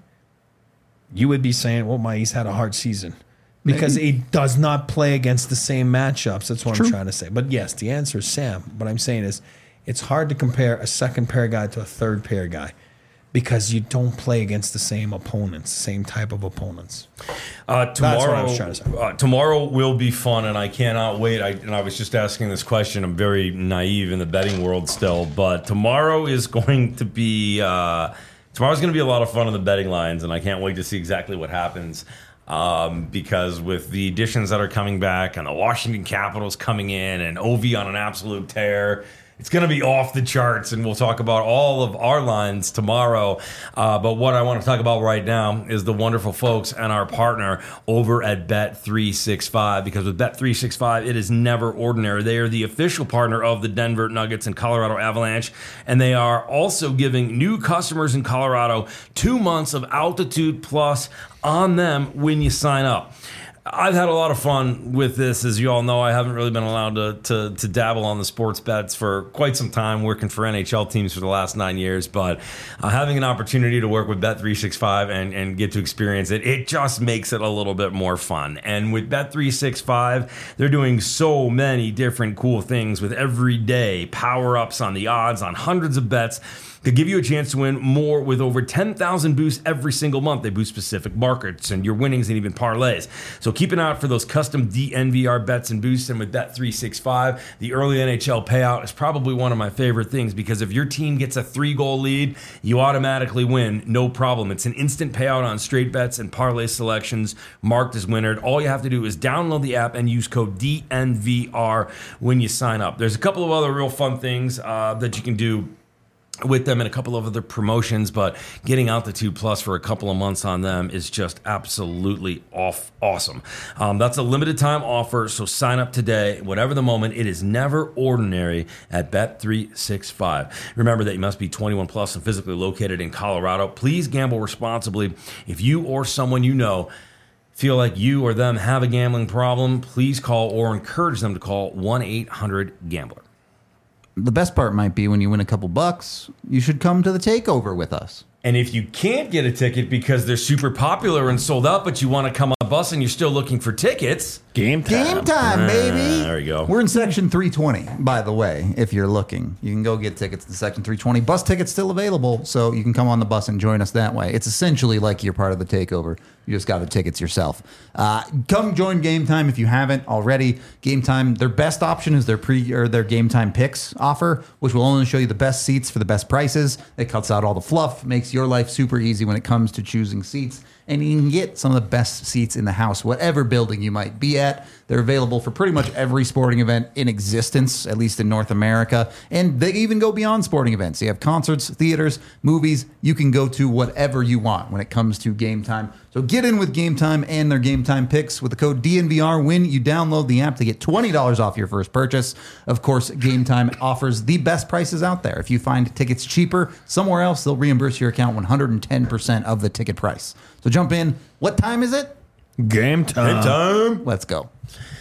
you would be saying, well, my he's had a hard season. Because Maybe. he does not play against the same matchups. That's what True. I'm trying to say. But yes, the answer is Sam. What I'm saying is it's hard to compare a second pair guy to a third pair guy because you don't play against the same opponents, same type of opponents. Uh, tomorrow, That's what I was trying to say. Uh, tomorrow will be fun, and I cannot wait. I, and I was just asking this question. I'm very naive in the betting world still, but tomorrow is going to be uh, tomorrow's going to be a lot of fun on the betting lines, and I can't wait to see exactly what happens. Um, because with the additions that are coming back, and the Washington Capitals coming in, and Ovi on an absolute tear. It's going to be off the charts, and we'll talk about all of our lines tomorrow. Uh, but what I want to talk about right now is the wonderful folks and our partner over at Bet three sixty-five, because with Bet three sixty-five, it is never ordinary. They are the official partner of the Denver Nuggets and Colorado Avalanche, and they are also giving new customers in Colorado two months of Altitude Plus on them when you sign up. I've had a lot of fun with this. As you all know, I haven't really been allowed to, to to dabble on the sports bets for quite some time, working for N H L teams for the last nine years. But uh, having an opportunity to work with Bet three sixty-five and, and get to experience it, it just makes it a little bit more fun. And with Bet three sixty-five, they're doing so many different cool things with everyday power-ups on the odds on hundreds of bets to give you a chance to win more with over ten thousand boosts every single month. They boost specific markets and your winnings and even parlays. So keep an eye out for those custom D N V R bets and boosts. And with Bet three sixty-five, the early N H L payout is probably one of my favorite things, because if your team gets a three-goal lead, you automatically win, no problem. It's an instant payout on straight bets and parlay selections marked as winner. All you have to do is download the app and use code D N V R when you sign up. There's a couple of other real fun things uh, that you can do with them and a couple of other promotions, but getting Altitude Plus for a couple of months on them is just absolutely off awesome. Um, that's a limited time offer, so sign up today. Whatever the moment, it is never ordinary at Bet three sixty-five. Remember that you must be twenty-one plus and physically located in Colorado. Please gamble responsibly. If you or someone you know feel like you or them have a gambling problem, please call or encourage them to call one eight hundred gambler. The best part might be when you win a couple bucks, you should come to the takeover with us. And if you can't get a ticket because they're super popular and sold out, but you want to come on a bus and you're still looking for tickets, Game time. Game time, baby. Uh, there you go. We're in section three twenty, by the way, if you're looking. You can go get tickets to section three twenty. Bus tickets still available, so you can come on the bus and join us that way. It's essentially like you're part of the takeover. You just got the tickets yourself. Uh, come join Game Time if you haven't already. Game Time, their best option is their pre or their Game Time Picks offer, which will only show you the best seats for the best prices. It cuts out all the fluff, makes your life super easy when it comes to choosing seats. And you can get some of the best seats in the house, whatever building you might be at. They're available for pretty much every sporting event in existence, at least in North America. And they even go beyond sporting events. You have concerts, theaters, movies. You can go to whatever you want when it comes to Game Time. So get in with Game Time and their Game Time picks with the code D N V R when you download the app to get twenty dollars off your first purchase. Of course, Game Time offers the best prices out there. If you find tickets cheaper somewhere else, they'll reimburse your account one hundred ten percent of the ticket price. So jump in. What time is it? Game time. Game time. Let's go.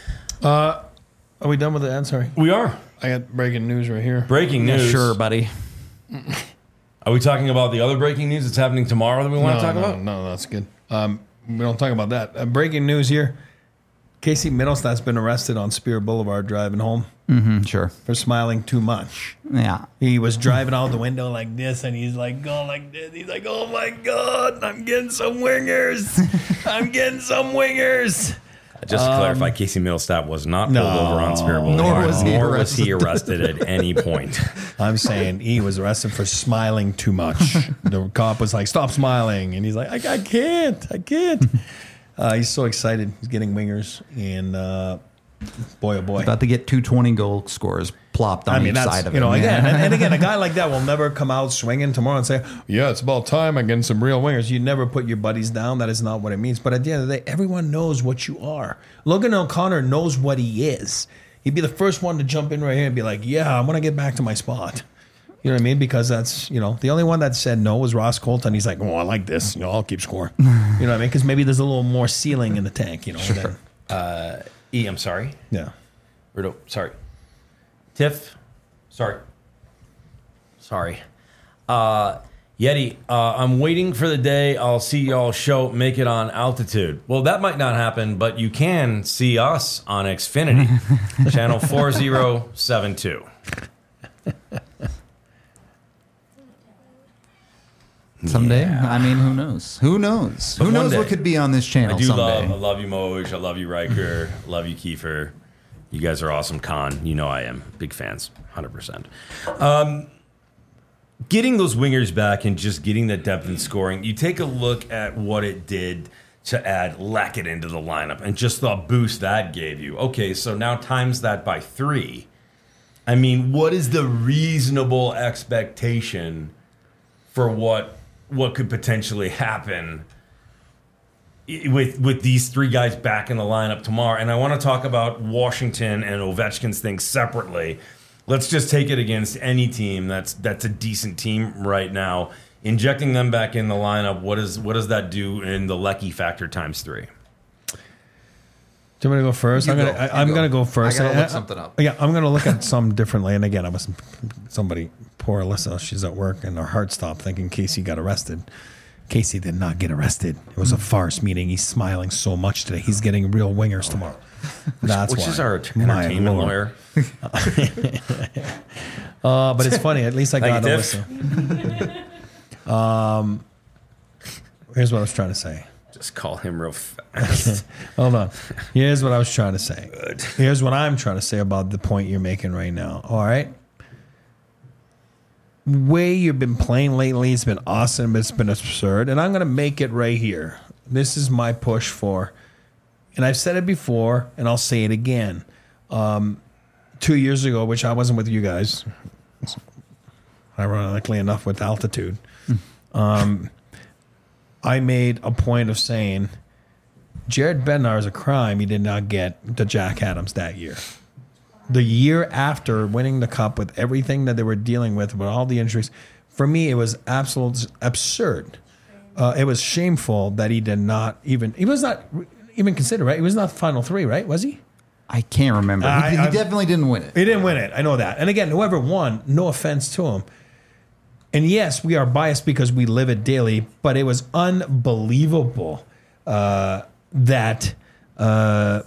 Uh, are we done with the ad? Sorry. We are. I got breaking news right here. Breaking news. Sure, buddy. Are we talking about the other breaking news that's happening tomorrow that we want no, to talk no, about? No, that's good. Um, we don't talk about that. Uh, breaking news here. Casey Middlestat's been arrested on Spear Boulevard driving home Mm-hmm, sure. for smiling too much. Yeah. He was driving out the window like this, and he's like going like this. He's like, "Oh my God, I'm getting some wingers. I'm getting some wingers." Just to clarify, Casey Middlestat was not pulled no, over on Spear Boulevard, nor was he nor was he arrested. arrested at any point. I'm saying he was arrested for smiling too much. The cop was like, "Stop smiling," and he's like, "I, I can't, I can't." Uh, he's so excited. He's getting wingers, and uh, boy, oh boy. About to get two twenty goal scores plopped on I mean, each that's, side of you it. know, man. again, and, and again, a guy like that will never come out swinging tomorrow and say, "Yeah, it's about time I'm getting some real wingers." You never put your buddies down. That is not what it means. But at the end of the day, everyone knows what you are. Logan O'Connor knows what he is. He'd be the first one to jump in right here and be like, "Yeah, I want to get back to my spot." You know what I mean? Because that's, you know, the only one that said no was Ross Colton. He's like, "Oh, I like this. You know, I'll keep scoring." You know what I mean? Because maybe there's a little more ceiling in the tank. You know. Sure. Than, Uh, E, I'm sorry. yeah. Rudo, sorry. Tiff, sorry. Sorry. Uh, Yeti, uh, I'm waiting for the day I'll see y'all show Make It on Altitude. Well, that might not happen, but you can see us on Xfinity, channel four zero seven two. Someday? Yeah. I mean, who knows? Who knows? But who one knows day. what could be on this channel I do someday? love, I love you, Moj. I love you, Riker. love you, Kiefer. You guys are awesome, Khan. You know I am. Big fans, one hundred percent. Um, getting those wingers back and just getting that depth in scoring, you take a look at what it did to add Lackett into the lineup and just the boost that gave you. Okay, so now times that by three. I mean, what is the reasonable expectation for what what could potentially happen with with these three guys back in the lineup tomorrow? And I want to talk about Washington and Ovechkin's thing separately. Let's just take it against any team that's that's a decent team right now. Injecting them back in the lineup, what is what does that do in the Lecky factor times three? Do you want me to go first? You I'm go. gonna. I, You I'm go. gonna go first. I gotta I- look I- something up. Yeah, I'm gonna look at some differently. And again, I was somebody. Poor Alyssa. She's at work, and her heart stopped thinking Casey got arrested. Casey did not get arrested. It was a farce meeting. He's smiling so much today. He's getting real wingers tomorrow. That's Which why. is our My entertainment Lord. lawyer. Uh, but it's funny. At least I got Thank you, Alyssa. um, here's what I was trying to say. Just call him real fast. Hold on. Here's what I was trying to say. Here's what I'm trying to say about the point you're making right now. All right. Way you've been playing lately, it's been awesome. It's been absurd. And I'm going to make it right here. This is my push for, and I've said it before, and I'll say it again. Um, two years ago, which I wasn't with you guys, ironically enough, with altitude. Um, I made a point of saying Jared Bednar is a crime he did not get the Jack Adams that year. The year after winning the cup with everything that they were dealing with, with all the injuries, for me, it was absolutely absurd. Uh, it was shameful that he did not even, he was not even considered, right? He was not final three, right? Was he? I can't remember. He, I- he I- definitely didn't win it. He didn't win it. I know that. And again, whoever won, no offense to him. And yes, we are biased because we live it daily, but it was unbelievable uh, that uh,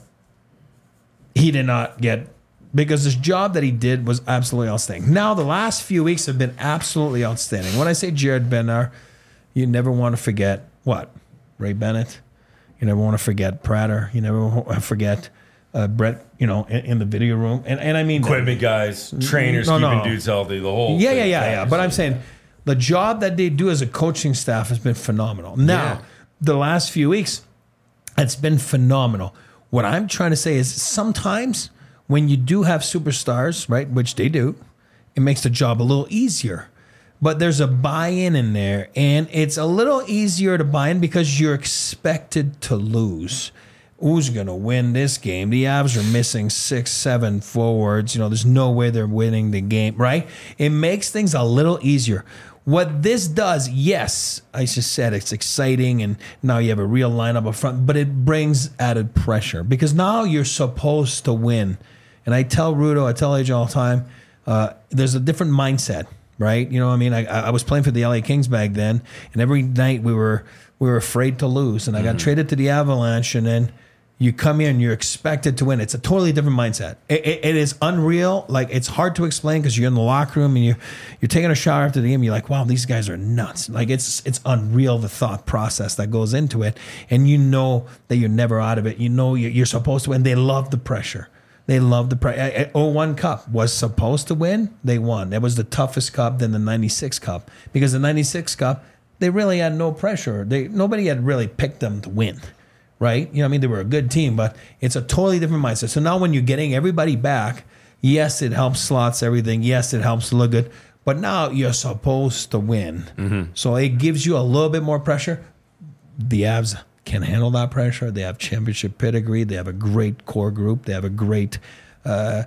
he did not get, because this job that he did was absolutely outstanding. Now, the last few weeks have been absolutely outstanding. When I say Jared Bednar, you never want to forget what? Ray Bennett. You never want to forget Prater. You never want to forget uh, Brett, you know, in, in the video room. And, and I mean, Equipment guys, trainers, No, keeping no. dudes healthy, the whole yeah, thing. yeah, yeah, yeah. But I'm saying the job that they do as a coaching staff has been phenomenal. Now, Yeah. the last few weeks, it's been phenomenal. What I'm trying to say is sometimes when you do have superstars, right, which they do, it makes the job a little easier. But there's a buy-in in there, and it's a little easier to buy in because you're expected to lose. Who's going to win this game? The Avs are missing six, seven forwards. You know, there's no way they're winning the game, right? It makes things a little easier. What this does, yes, I just said it's exciting, and now you have a real lineup up front, but it brings added pressure because now you're supposed to win. And I tell Rudo, I tell A J all the time, uh, there's a different mindset, right? You know what I mean? I, I was playing for the L A Kings back then, and every night we were we were afraid to lose, and I got traded to the Avalanche, and then you come here and you're expected to win. It's a totally different mindset. It, it, it is unreal. Like, it's hard to explain because you're in the locker room and you you're taking a shower after the game. You're like, wow, these guys are nuts. Like, it's it's unreal, the thought process that goes into it, and you know that you're never out of it. You know you're, you're supposed to win. They love the pressure. They love the pressure. oh one Cup was supposed to win. They won. That was the toughest cup than the ninety-six Cup because the ninety-six Cup, they really had no pressure. They nobody had really picked them to win. Right? You know what I mean? They were a good team, but it's a totally different mindset. So now when you're getting everybody back, yes, it helps slots everything. Yes, it helps look good. But now you're supposed to win. Mm-hmm. So it gives you a little bit more pressure. The Avs can handle that pressure. They have championship pedigree. They have a great core group. They have a great uh,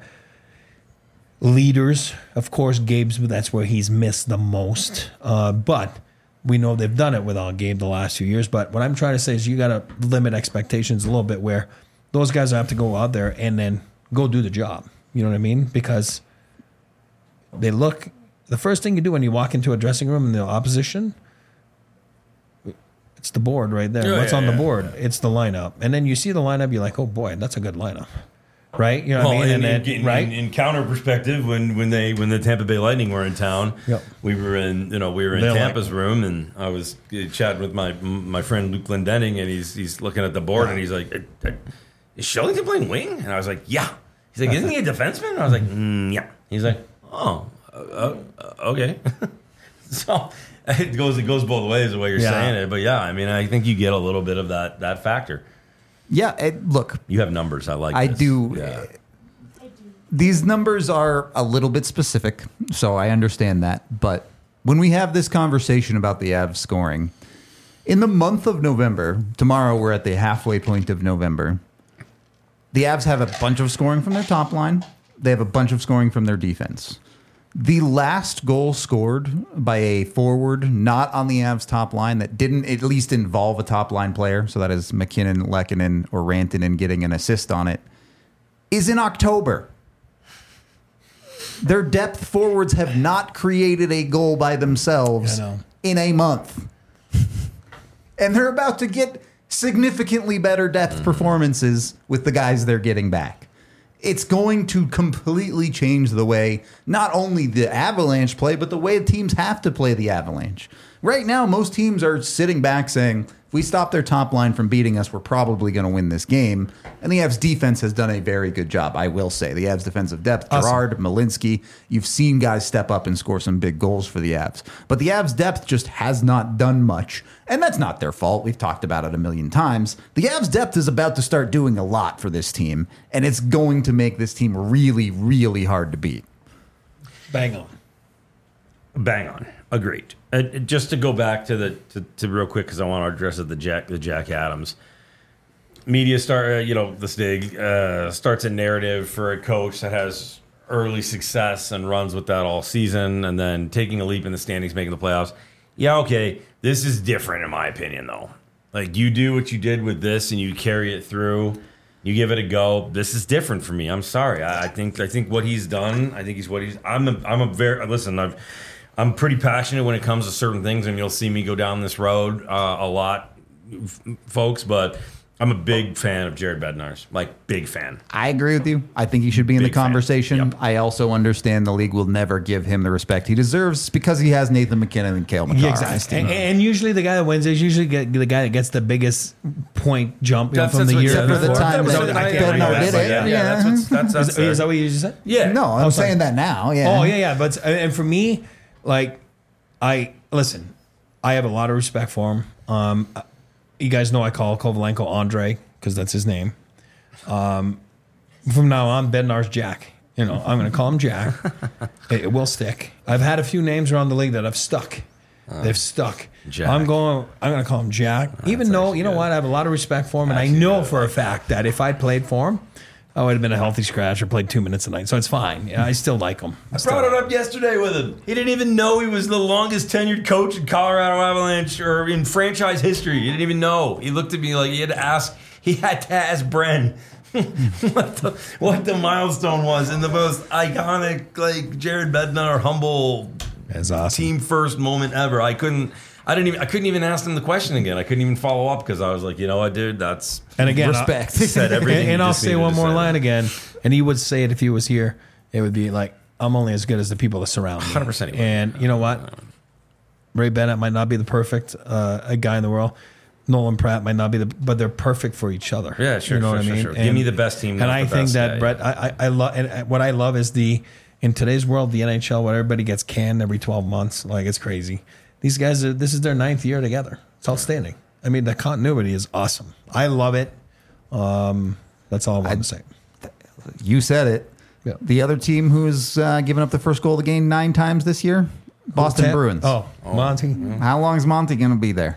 leaders. Of course, Gabe's, that's where he's missed the most. Uh, but we know they've done it without Gabe the last few years. But what I'm trying to say is you got to limit expectations a little bit where those guys have to go out there and then go do the job. You know what I mean? Because they look, the first thing you do when you walk into a dressing room in the opposition, it's the board right there. Yeah, What's yeah, on the yeah. board? It's the lineup. And then you see the lineup, you're like, oh boy, that's a good lineup. Right? You know what Well, I mean? in, And in, then, right? in, in counter perspective, when, when they when the Tampa Bay Lightning were in town, Yep. we were in you know we were in They're like- Tampa's room, and I was uh, chatting with my my friend Luke Glendenning, and he's he's looking at the board, and he's like, "Uh, uh, "Is Shellington playing wing?" And I was like, "Yeah." He's like, "Isn't he a defenseman?" And I was like, mm, "Yeah." He's like, "Oh, uh, uh, okay." So it goes it goes both ways the way you're Yeah. saying it, but yeah, I mean, I think you get a little bit of that that factor. Yeah, it, look, You have numbers. I like. I this. do. Yeah. These numbers are a little bit specific, so I understand that. But when we have this conversation about the Avs scoring, in the month of November, tomorrow we're at the halfway point of November, the Avs have a bunch of scoring from their top line. They have a bunch of scoring from their defense. The last goal scored by a forward not on the Avs top line that didn't at least involve a top line player, so that is McKinnon, Lehkonen, or Rantanen getting an assist on it, is in October. Their depth forwards have not created a goal by themselves I know. in a month. And they're about to get significantly better depth performances with the guys they're getting back. It's going to completely change the way not only the Avalanche play, but the way teams have to play the Avalanche. Right now, most teams are sitting back saying, if we stop their top line from beating us, we're probably going to win this game. And the Avs defense has done a very good job, I will say. The Avs defensive depth, Awesome. Gerard, Malinsky, you've seen guys step up and score some big goals for the Avs. But the Avs depth just has not done much. And that's not their fault. We've talked about it a million times. The Avs depth is about to start doing a lot for this team. And it's going to make this team really, really hard to beat. Bang on. Bang on. Agreed. Uh, just to go back to the to, to real quick because I want to address it, the Jack the Jack Adams media start. Uh, you know, this Stig uh, starts a narrative for a coach that has early success and runs with that all season, and then taking a leap in the standings, making the playoffs. Yeah, okay. This is different in my opinion, though. Like you do what you did with this, and you carry it through. You give it a go. This is different for me. I'm sorry. I, I think I think what he's done. I think he's what he's. I'm a, I'm a very listen. I've. I'm pretty passionate when it comes to certain things, and you'll see me go down this road uh, a lot, f- folks. But I'm a big fan of Jared Bednar's, like big fan. I agree with you. I think he should be in Big the fan. conversation. Yep. I also understand the league will never give him the respect he deserves because he has Nathan McKinnon and Cale Makar. Yeah, exactly. And, and usually the guy that wins is usually get, the guy that gets the biggest point jump you know, That's- from that's the what- year except for the before. time So that I can't Bednar remember did that, it. Yeah, but yeah, that's what's, that's that's Is, is that what you just said? yeah. No, I'm Oh, sorry. saying that now. Yeah. Oh yeah, yeah. But and for me, like, I listen. I have a lot of respect for him. Um, you guys know I call Kovalenko Andre because that's his name. Um, from now on, Bednar's Jack. You know, I'm going to call him Jack. it, it will stick. I've had a few names around the league that have stuck. They've stuck. Jack. I'm going. I'm going to call him Jack. Even though you know good. what, I have a lot of respect for him, and I Actually know good. for a fact that if I played for him, I would have been a healthy scratch or played two minutes a night. So it's fine. Yeah, I still like him. I brought it up yesterday with him. He didn't even know he was the longest tenured coach in Colorado Avalanche or in franchise history. He didn't even know. He looked at me like he had to ask. He had to ask Bren what the what the milestone was in the most iconic, like Jared Bednar humble That's awesome. team first moment ever. I couldn't. I didn't even. I couldn't even ask him the question again. I couldn't even follow up because I was like, you know what, dude, that's And again, Respect. said everything. and, you and I'll just say needed one to more say. line again, and he would say it if he was here. It would be like, I'm only as good as the people that surround me. one hundred percent he would. And you know what? Ray Bennett might not be the perfect uh, a guy in the world. Nolan Pratt might not be the, but they're perfect for each other. Yeah, sure, You know sure, what I sure, mean? sure. Give me the best team, And not I the think best that guy, Brett, yeah. I, I, I love, and what I love is the in today's world, the N H L, where everybody gets canned every twelve months, like it's crazy. These guys are. This is their ninth year together. It's outstanding. I mean, the continuity is awesome. I love it. Um, that's all I want to say. You said it. Yeah. The other team who's uh, given up the first goal of the game nine times this year, Boston Ten- Bruins. Oh, Monty. How long is Monty going to be there?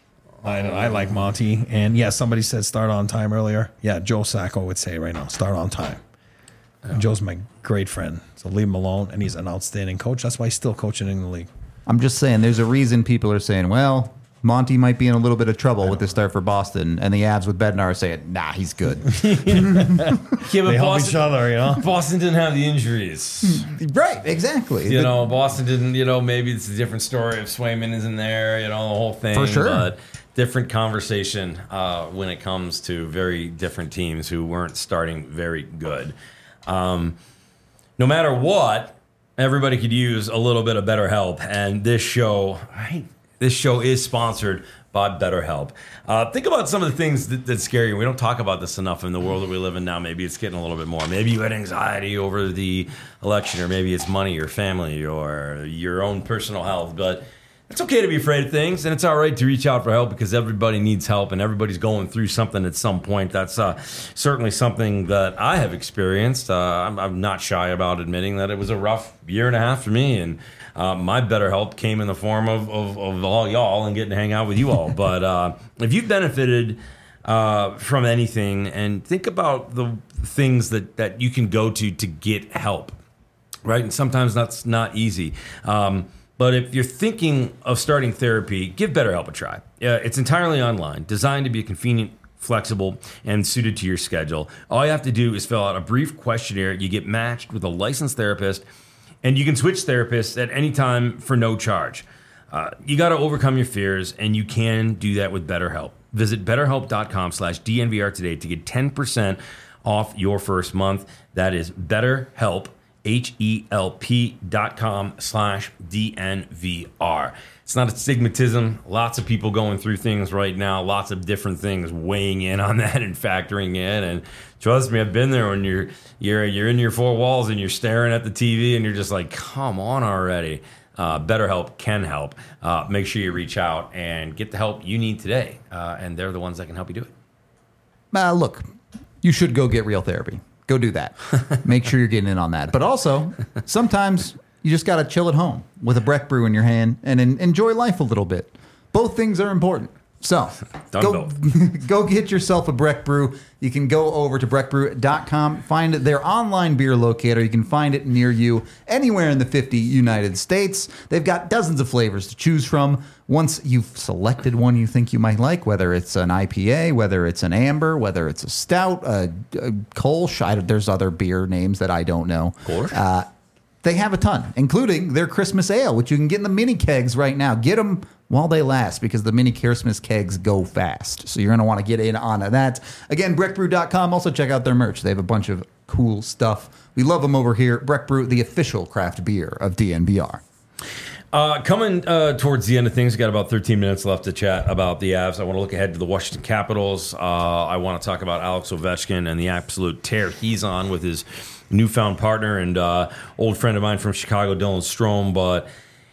I know, I like Monty. And yeah, somebody said start on time earlier. Yeah, Joe Sacco would say right now, start on time. And Joe's my great friend. So leave him alone. And he's an outstanding coach. That's why he's still coaching in the league. I'm just saying, there's a reason people are saying, well, Monty might be in a little bit of trouble with the start for Boston, and the Avs with Bednar are saying, nah, he's good. Yeah, but They help Boston, each other, you know? Boston didn't have the injuries. Right, exactly. You know, Boston didn't, you know, maybe it's a different story if Swayman isn't there, you know, the whole thing. For sure. But different conversation uh, when it comes to very different teams who weren't starting very good. Um, no matter what, everybody could use a little bit of better help. And this show, right, this show is sponsored by BetterHelp. Uh, think about some of the things that, that scare you. We don't talk about this enough in the world that we live in now. Maybe it's getting a little bit more. Maybe you had anxiety over the election, or maybe it's money or family or your own personal health. But it's okay to be afraid of things, and it's all right to reach out for help because everybody needs help and everybody's going through something at some point. That's uh, certainly something that I have experienced. Uh, I'm, I'm not shy about admitting that it was a rough year and a half for me, and uh, my better help came in the form of, of, of all y'all and getting to hang out with you all. But uh, if you've benefited uh, from anything, and think about the things that, that you can go to to get help, right? And sometimes that's not easy. Um, But if you're thinking of starting therapy, give BetterHelp a try. Uh, it's entirely online, designed to be convenient, flexible, and suited to your schedule. All you have to do is fill out a brief questionnaire. You get matched with a licensed therapist, and you can switch therapists at any time for no charge. Uh, you got to overcome your fears, and you can do that with BetterHelp. Visit betterhelp.com slash DNVR today to get ten percent off your first month. That is BetterHelp. H-E-L-P dot com slash D-N-V-R. It's not a stigmatism. Lots of people going through things right now. Lots of different things weighing in on that and factoring in. And trust me, I've been there when you're you're you're in your four walls and you're staring at the T V and you're just like, come on already. Uh, BetterHelp can help. Uh, make sure you reach out and get the help you need today. Uh, and they're the ones that can help you do it. Uh, look, you should go get real therapy. Go do that. Make sure you're getting in on that. But also, sometimes you just got to chill at home with a Breck Brew in your hand and en- enjoy life a little bit. Both things are important. So Done go, both. go get yourself a Breck Brew. You can go over to breck brew dot com, find their online beer locator. You can find it near you anywhere in the fifty United States. They've got dozens of flavors to choose from. Once you've selected one you think you might like, whether it's an I P A, whether it's an amber, whether it's a stout, a, a Kolsch, I, there's other beer names that I don't know. Kolsch? Uh, they have a ton, including their Christmas ale, which you can get in the mini kegs right now. Get them while they last because the mini Christmas kegs go fast. So you're going to want to get in on that. Again, breck brew dot com. Also check out their merch. They have a bunch of cool stuff. We love them over here. Breck Brew, the official craft beer of D N V R. Uh, coming uh, towards the end of things, we've got about thirteen minutes left to chat about the Avs. I want to look ahead to the Washington Capitals. Uh, I want to talk about Alex Ovechkin and the absolute tear he's on with his newfound partner and uh, old friend of mine from Chicago, Dylan Strome. But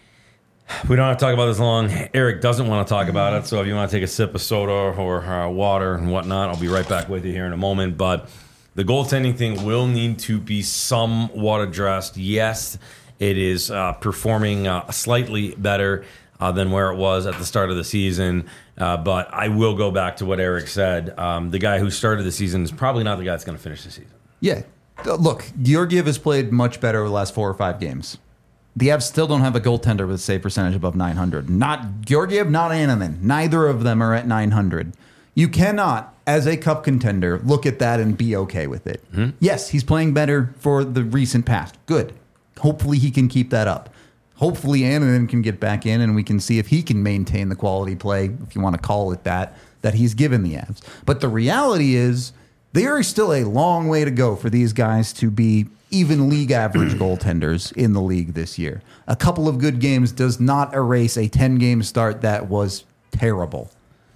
we don't have to talk about this long. Eric doesn't want to talk about it. So if you want to take a sip of soda or uh, water and whatnot, I'll be right back with you here in a moment. But the goaltending thing will need to be somewhat addressed. Yes, it is uh, performing uh, slightly better uh, than where it was at the start of the season. Uh, but I will go back to what Eric said. Um, the guy who started the season is probably not the guy that's going to finish the season. Yeah. Uh, Look, Georgiev has played much better over the last four or five games. The Avs still don't have a goaltender with a save percentage above nine hundred. Not Georgiev, not Ananen. Neither of them are at nine hundred. You cannot, as a cup contender, look at that and be okay with it. Mm-hmm. Yes, he's playing better for the recent past. Good. Hopefully he can keep that up. Hopefully Ananen can get back in and we can see if he can maintain the quality play, if you want to call it that, that he's given the Avs. But the reality is there is still a long way to go for these guys to be even league average goaltenders in the league this year. A couple of good games does not erase a ten-game start that was terrible.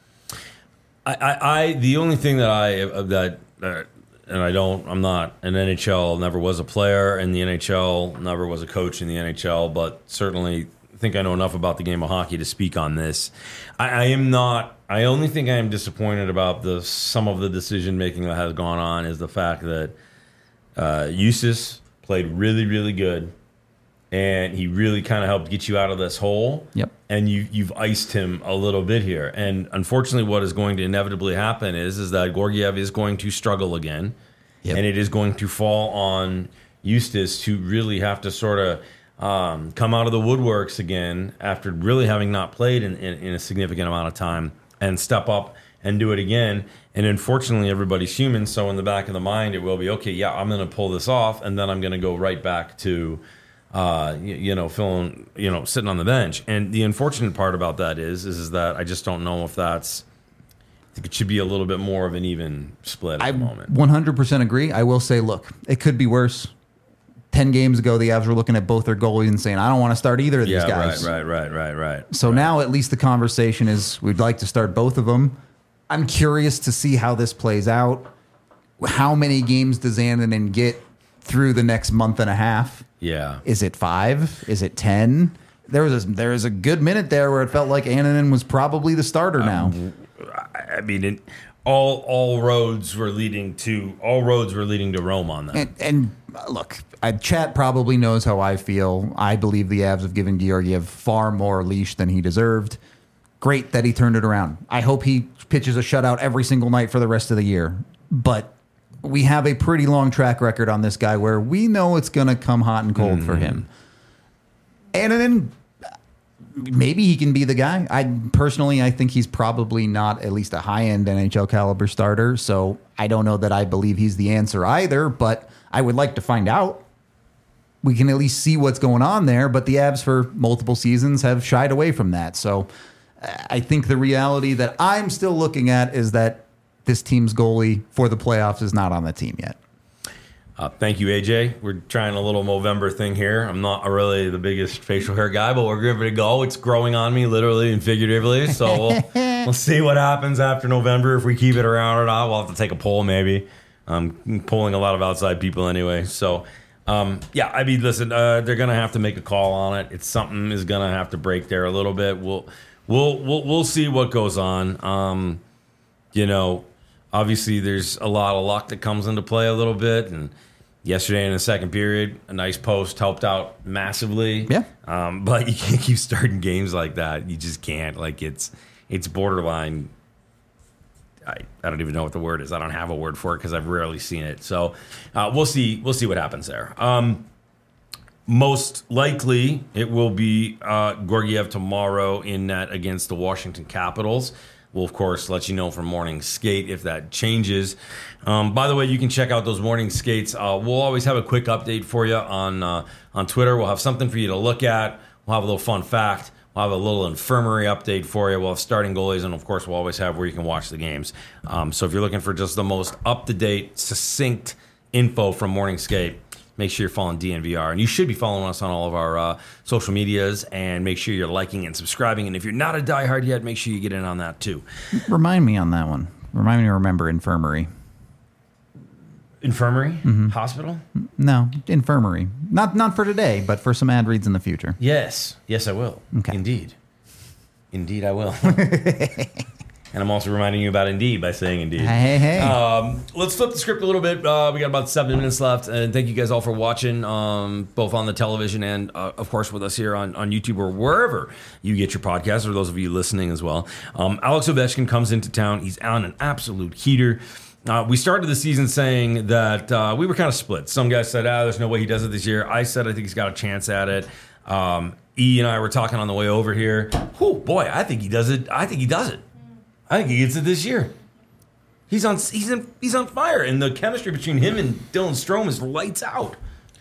I, I, I the only thing that I that uh, and I don't I'm not an N H L, never was a player in the N H L, never was a coach in the N H L, but certainly think I know enough about the game of hockey to speak on this. I, I am not. I only think I am disappointed about the some of the decision making that has gone on is the fact that uh, Eustace played really really good. And he really kind of helped get you out of this hole. Yep. And you, you've iced him a little bit here. And unfortunately, what is going to inevitably happen is, is that Georgiev is going to struggle again. Yep. And it is going to fall on Eustace to really have to sort of um, come out of the woodworks again after really having not played in, in, in a significant amount of time and step up and do it again. And unfortunately, everybody's human. So in the back of the mind, it will be, okay, yeah, I'm going to pull this off. And then I'm going to go right back to... Uh, you, you know, feeling, you know, sitting on the bench. And the unfortunate part about that is, is, is that I just don't know if that's, I think it should be a little bit more of an even split at I the moment. one hundred percent agree. I will say, look, it could be worse. Ten games ago, the Avs were looking at both their goalies and saying, I don't want to start either of these yeah, guys. right, right, right, right, right. So right. now at least the conversation is we'd like to start both of them. I'm curious to see how this plays out. How many games does Ananen get through the next month and a half? Yeah. Is it five? Is it ten? there was a, there was a good minute there where it felt like Annunen was probably the starter now. Um, I mean, it, all all roads were leading to all roads were leading to Rome on that. And, and uh, look, I, Chat probably knows how I feel. I believe the Avs have given Georgiev far more leash than he deserved. Great that he turned it around. I hope he pitches a shutout every single night for the rest of the year. But we have a pretty long track record on this guy where we know it's going to come hot and cold mm-hmm. for him. And then maybe he can be the guy. I personally, I think he's probably not at least a high-end N H L caliber starter. So I don't know that I believe he's the answer either, but I would like to find out. We can at least see what's going on there, but the Avs for multiple seasons have shied away from that. So I think the reality that I'm still looking at is that this team's goalie for the playoffs is not on the team yet. Uh, thank you, A J. We're trying a little Movember thing here. I'm not really the biggest facial hair guy, but we're giving it a go. It's growing on me, literally and figuratively. So we'll, we'll see what happens after November. If we keep it around or not, we'll have to take a poll maybe. I'm polling a lot of outside people anyway. So, um, yeah, I mean, listen, uh, they're going to have to make a call on it. It's something is going to have to break there a little bit. We'll we'll we'll, we'll see what goes on. Um, you know, obviously there's a lot of luck that comes into play a little bit, and yesterday in the second period, a nice post helped out massively. Yeah. Um, but you can't keep starting games like that. You just can't. Like, it's it's borderline. I, I don't even know what the word is. I don't have a word for it because I've rarely seen it. So uh, we'll see. We'll see what happens there. Um, most likely, it will be uh, Georgiev tomorrow in net against the Washington Capitals. We'll, of course, let you know from Morning Skate if that changes. Um, by the way, you can check out those morning skates. Uh, we'll always have a quick update for you on uh, on Twitter. We'll have something for you to look at. We'll have a little fun fact. We'll have a little infirmary update for you. We'll have starting goalies, and, of course, we'll always have where you can watch the games. Um, so if you're looking for just the most up-to-date, succinct info from Morning Skate, make sure you're following D N V R. And you should be following us on all of our uh, social medias, and make sure you're liking and subscribing. And if you're not a diehard yet, make sure you get in on that too. Remind me on that one. Remind me to remember infirmary. Infirmary? Mm-hmm. Hospital? No, infirmary. Not not for today, but for some ad reads in the future. Yes. Yes, I will. Okay. Indeed. Indeed, I will. And I'm also reminding you about Indeed by saying Indeed. Hey, hey, hey. Um, let's flip the script a little bit. Uh, we got about seven minutes left. And thank you guys all for watching, um, both on the television and, uh, of course, with us here on, on YouTube or wherever you get your podcasts, or those of you listening as well. Um, Alex Ovechkin comes into town. He's on an absolute heater. Uh, we started the season saying that uh, we were kind of split. Some guys said, ah, there's no way he does it this year. I said I think he's got a chance at it. Um, E and I were talking on the way over here. Oh, boy, I think he does it. I think he does it. I think he gets it this year. He's on he's in, he's on fire, and the chemistry between him and Dylan Strome is lights out.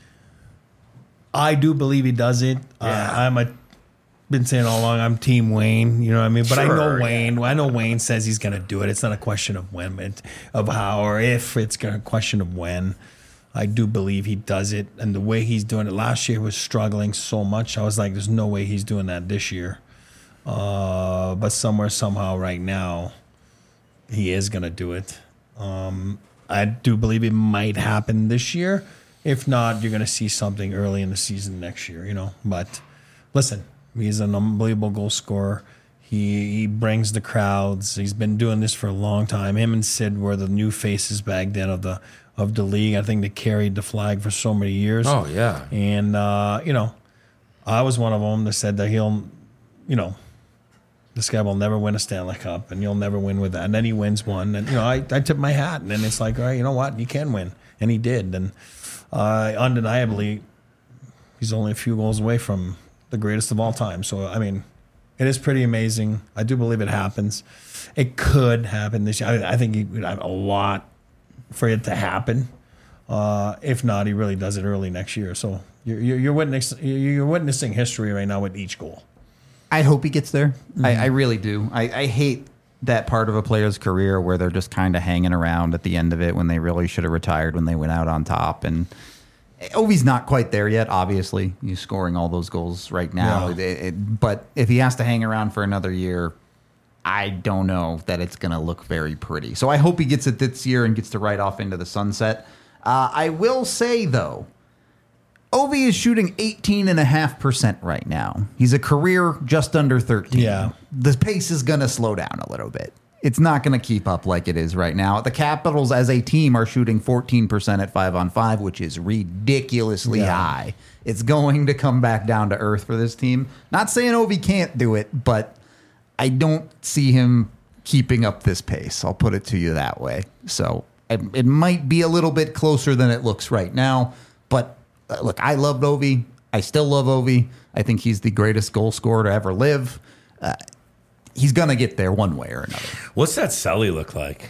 I do believe he does it. Yeah. Uh, I'm a been saying all along I'm Team Wayne. You know what I mean? But sure, I know Wayne. I know Wayne says he's going to do it. It's not a question of when, it's of how or if. It's a question of when. I do believe he does it, and the way he's doing it last year was struggling so much. I was like, there's no way he's doing that this year. Uh, but somewhere, somehow, right now, he is going to do it. Um, I do believe it might happen this year. If not, you're going to see something early in the season next year, you know. But listen, he's an unbelievable goal scorer. He he brings the crowds. He's been doing this for a long time. Him and Sid were the new faces back then of the of the league. I think they carried the flag for so many years. Oh, yeah. And, uh, you know, I was one of them that said that he'll, you know, this guy will never win a Stanley Cup, and you'll never win with that. And then he wins one, and you know, I, I tip my hat, and then it's like, all right, you know what, you can win, and he did, and uh, undeniably, he's only a few goals away from the greatest of all time. So I mean, it is pretty amazing. I do believe it happens. It could happen this year. I, I think he would have a lot for it to happen. Uh, if not, he really does it early next year. So you're you're, you're witnessing you're witnessing history right now with each goal. I hope he gets there. Mm-hmm. I, I really do. I, I hate that part of a player's career where they're just kind of hanging around at the end of it when they really should have retired when they went out on top. And Ovi's not quite there yet, obviously. He's scoring all those goals right now. Yeah. It, it, but if he has to hang around for another year, I don't know that it's going to look very pretty. So I hope he gets it this year and gets to ride off into the sunset. Uh, I will say, though, Ovi is shooting eighteen point five percent right now. He's a career just under thirteen. Yeah. The pace is going to slow down a little bit. It's not going to keep up like it is right now. The Capitals as a team are shooting fourteen percent at five on five, which is ridiculously Yeah. high. It's going to come back down to earth for this team. Not saying Ovi can't do it, but I don't see him keeping up this pace. I'll put it to you that way. So it, it might be a little bit closer than it looks right now. But uh, look, I loved Ovi. I still love Ovi. I think he's the greatest goal scorer to ever live. Uh, he's going to get there one way or another. What's that Sully look like?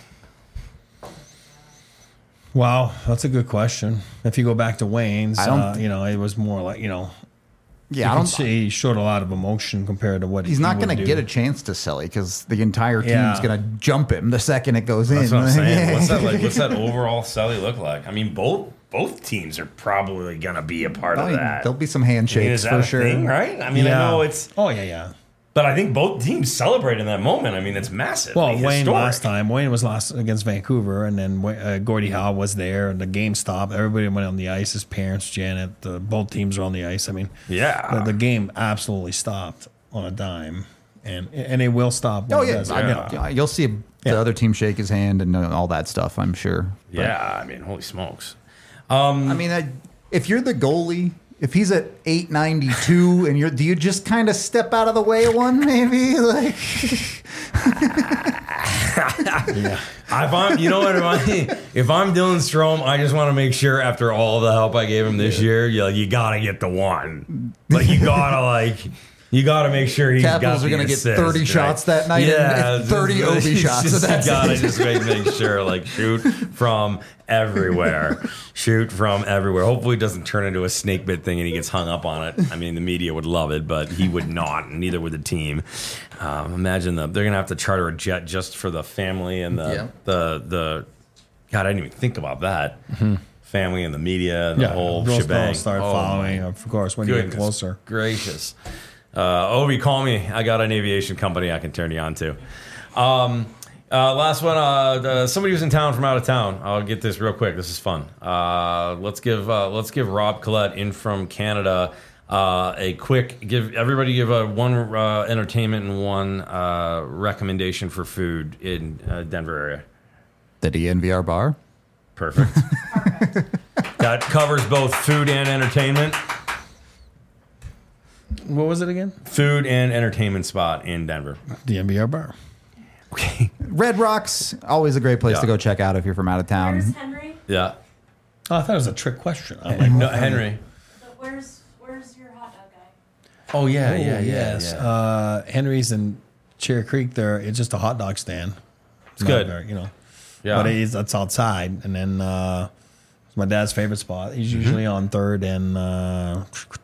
Wow, that's a good question. If you go back to Wayne's, I don't uh, you know, it was more like, you know, Yeah, you I can don't see he showed a lot of emotion compared to what He's he not would going to do. get a chance to sell it because the entire team's Yeah. going to jump him the second it goes That's in. what I'm saying. What's that like? What's that overall Sully look like? I mean, both both teams are probably gonna be a part of that. There'll be some I mean, handshakes is that for a sure. thing, right? I mean, Yeah. I know it's, Oh, yeah, yeah. but I think both teams celebrate in that moment. I mean, it's massive. Well, Like, Wayne historic. last time, Wayne was lost against Vancouver, and then uh, Gordie Howe was there, and the game stopped. Everybody went on the ice. His parents, Janet, the, both teams were on the ice. I mean, Yeah. the, the game absolutely stopped on a dime, and and it will stop. when Oh it yeah, does. I mean, Yeah. yeah, you'll see the Yeah. other team shake his hand and all that stuff. I'm sure. But, Yeah, I mean, holy smokes. I mean, I, if you're the goalie, if he's at eight ninety-two and you're, do you just kind of step out of the way one maybe? Like, Yeah. If I'm, you know what, if, I, if I'm Dylan Strome, I just want to make sure after all the help I gave him this year, you you gotta get the one. Like you gotta like. You got to make sure he's Capitals got are the gonna get assist, thirty right? shots that night and Yeah, thirty just- O B it's shots, Just, so that's you got to it. just make, make sure, like, shoot from everywhere. Shoot from everywhere. Hopefully, it doesn't turn into a snake bit thing and he gets hung up on it. I mean, the media would love it, but he would not, and neither would the team. Um, imagine the, they're going to have to charter a jet just for the family and the, Yeah. the, the, God, I didn't even think about that. Family and the media and Yeah, the whole girls, shebang. girls start Oh, following, my of course, when you get goodness closer. gracious. Uh, Ovi, call me. I got an aviation company I can turn you on to. Um, uh, last one. Uh, the, somebody who's in town from out of town. I'll get this real quick. This is fun. Uh, let's give uh, let's give Rob Collette in from Canada uh, a quick give. Everybody give a one uh, entertainment and one uh, recommendation for food in uh, Denver area. the D N V R bar. Perfect. That covers both food and entertainment. What was it again? Food and entertainment spot in Denver. The N B R bar. Okay. Red Rocks, always a great place Yeah. to go check out if you're from out of Where's town. Henry? Yeah. Oh, I thought it was a trick question. I'm like, No, Henry. The, where's Where's your hot dog guy? Oh yeah, oh, yeah, yeah. yes. yeah. Uh, Henry's in Cherry Creek. There, it's just a hot dog stand. It's not good. very, you know. Yeah. But it's it's outside, and then uh, it's my dad's favorite spot. He's Mm-hmm. usually on Third and uh,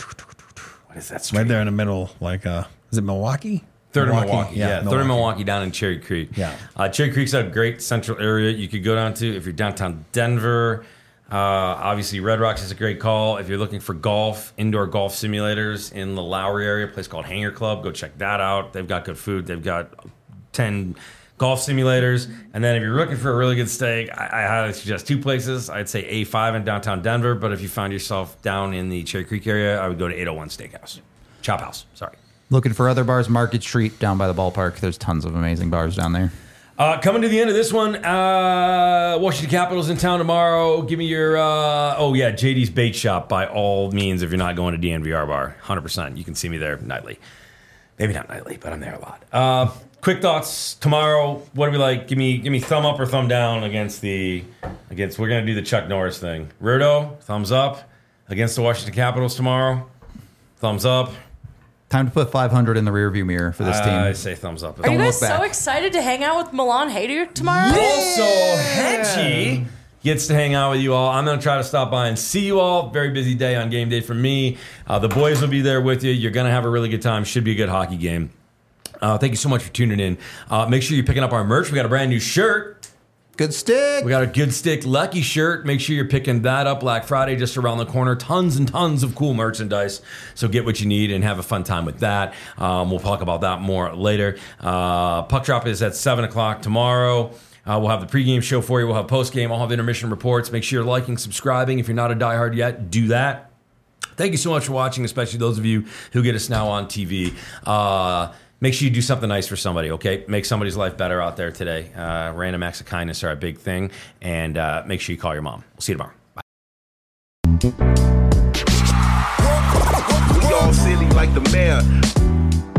What is that street? right there in the middle. Like, uh, is it Milwaukee? Third in Milwaukee. Yeah, third in Milwaukee. Milwaukee down in Cherry Creek. Yeah. Uh, Cherry Creek's a great central area you could go down to if you're downtown Denver. Uh, obviously, Red Rocks is a great call. If you're looking for golf, indoor golf simulators in the Lowry area, a place called Hanger Club, go check that out. They've got good food. They've got ten golf simulators. And then if you're looking for a really good steak, I, I highly suggest two places. I'd say A five in downtown Denver, but if you find yourself down in the Cherry Creek area, I would go to eight oh one Steakhouse. Chop House, sorry. Looking for other bars, Market Street down by the ballpark. There's tons of amazing bars down there. Uh, coming to the end of this one, uh, Washington Capitals in town tomorrow. Give me your, uh, oh yeah, J D's Bait Shop by all means if you're not going to D N V R bar. one hundred percent. You can see me there nightly. Maybe not nightly, but I'm there a lot. Uh, quick thoughts tomorrow. What do we like? Give me give me thumb up or thumb down against the, against, we're going to do the Chuck Norris thing. Rudo, thumbs up against the Washington Capitals tomorrow. Thumbs up. Time to put five hundred in the rearview mirror for this I team. say thumbs up. Are you Don't guys look so back. excited to hang out with Milan Haydu tomorrow? Also, Hedgie gets to hang out with you all. I'm going to try to stop by and see you all. Very busy day on game day for me. Uh, the boys will be there with you. You're going to have a really good time. Should be a good hockey game. Uh, thank you so much for tuning in. Uh, make sure you're picking up our merch. We got a brand new shirt. Good stick. We got a Good Stick Lucky shirt. Make sure you're picking that up. Black Friday just around the corner. Tons and tons of cool merchandise. So get what you need and have a fun time with that. Um, we'll talk about that more later. Uh, Puck Drop is at seven o'clock tomorrow. Uh, we'll have the pregame show for you. We'll have postgame. I'll have intermission reports. Make sure you're liking, subscribing. If you're not a diehard yet, do that. Thank you so much for watching, especially those of you who get us now on T V. Uh, make sure you do something nice for somebody, okay? Make somebody's life better out there today. Uh, random acts of kindness are a big thing. And uh, make sure you call your mom. We'll see you tomorrow. Bye. We all silly like the mayor.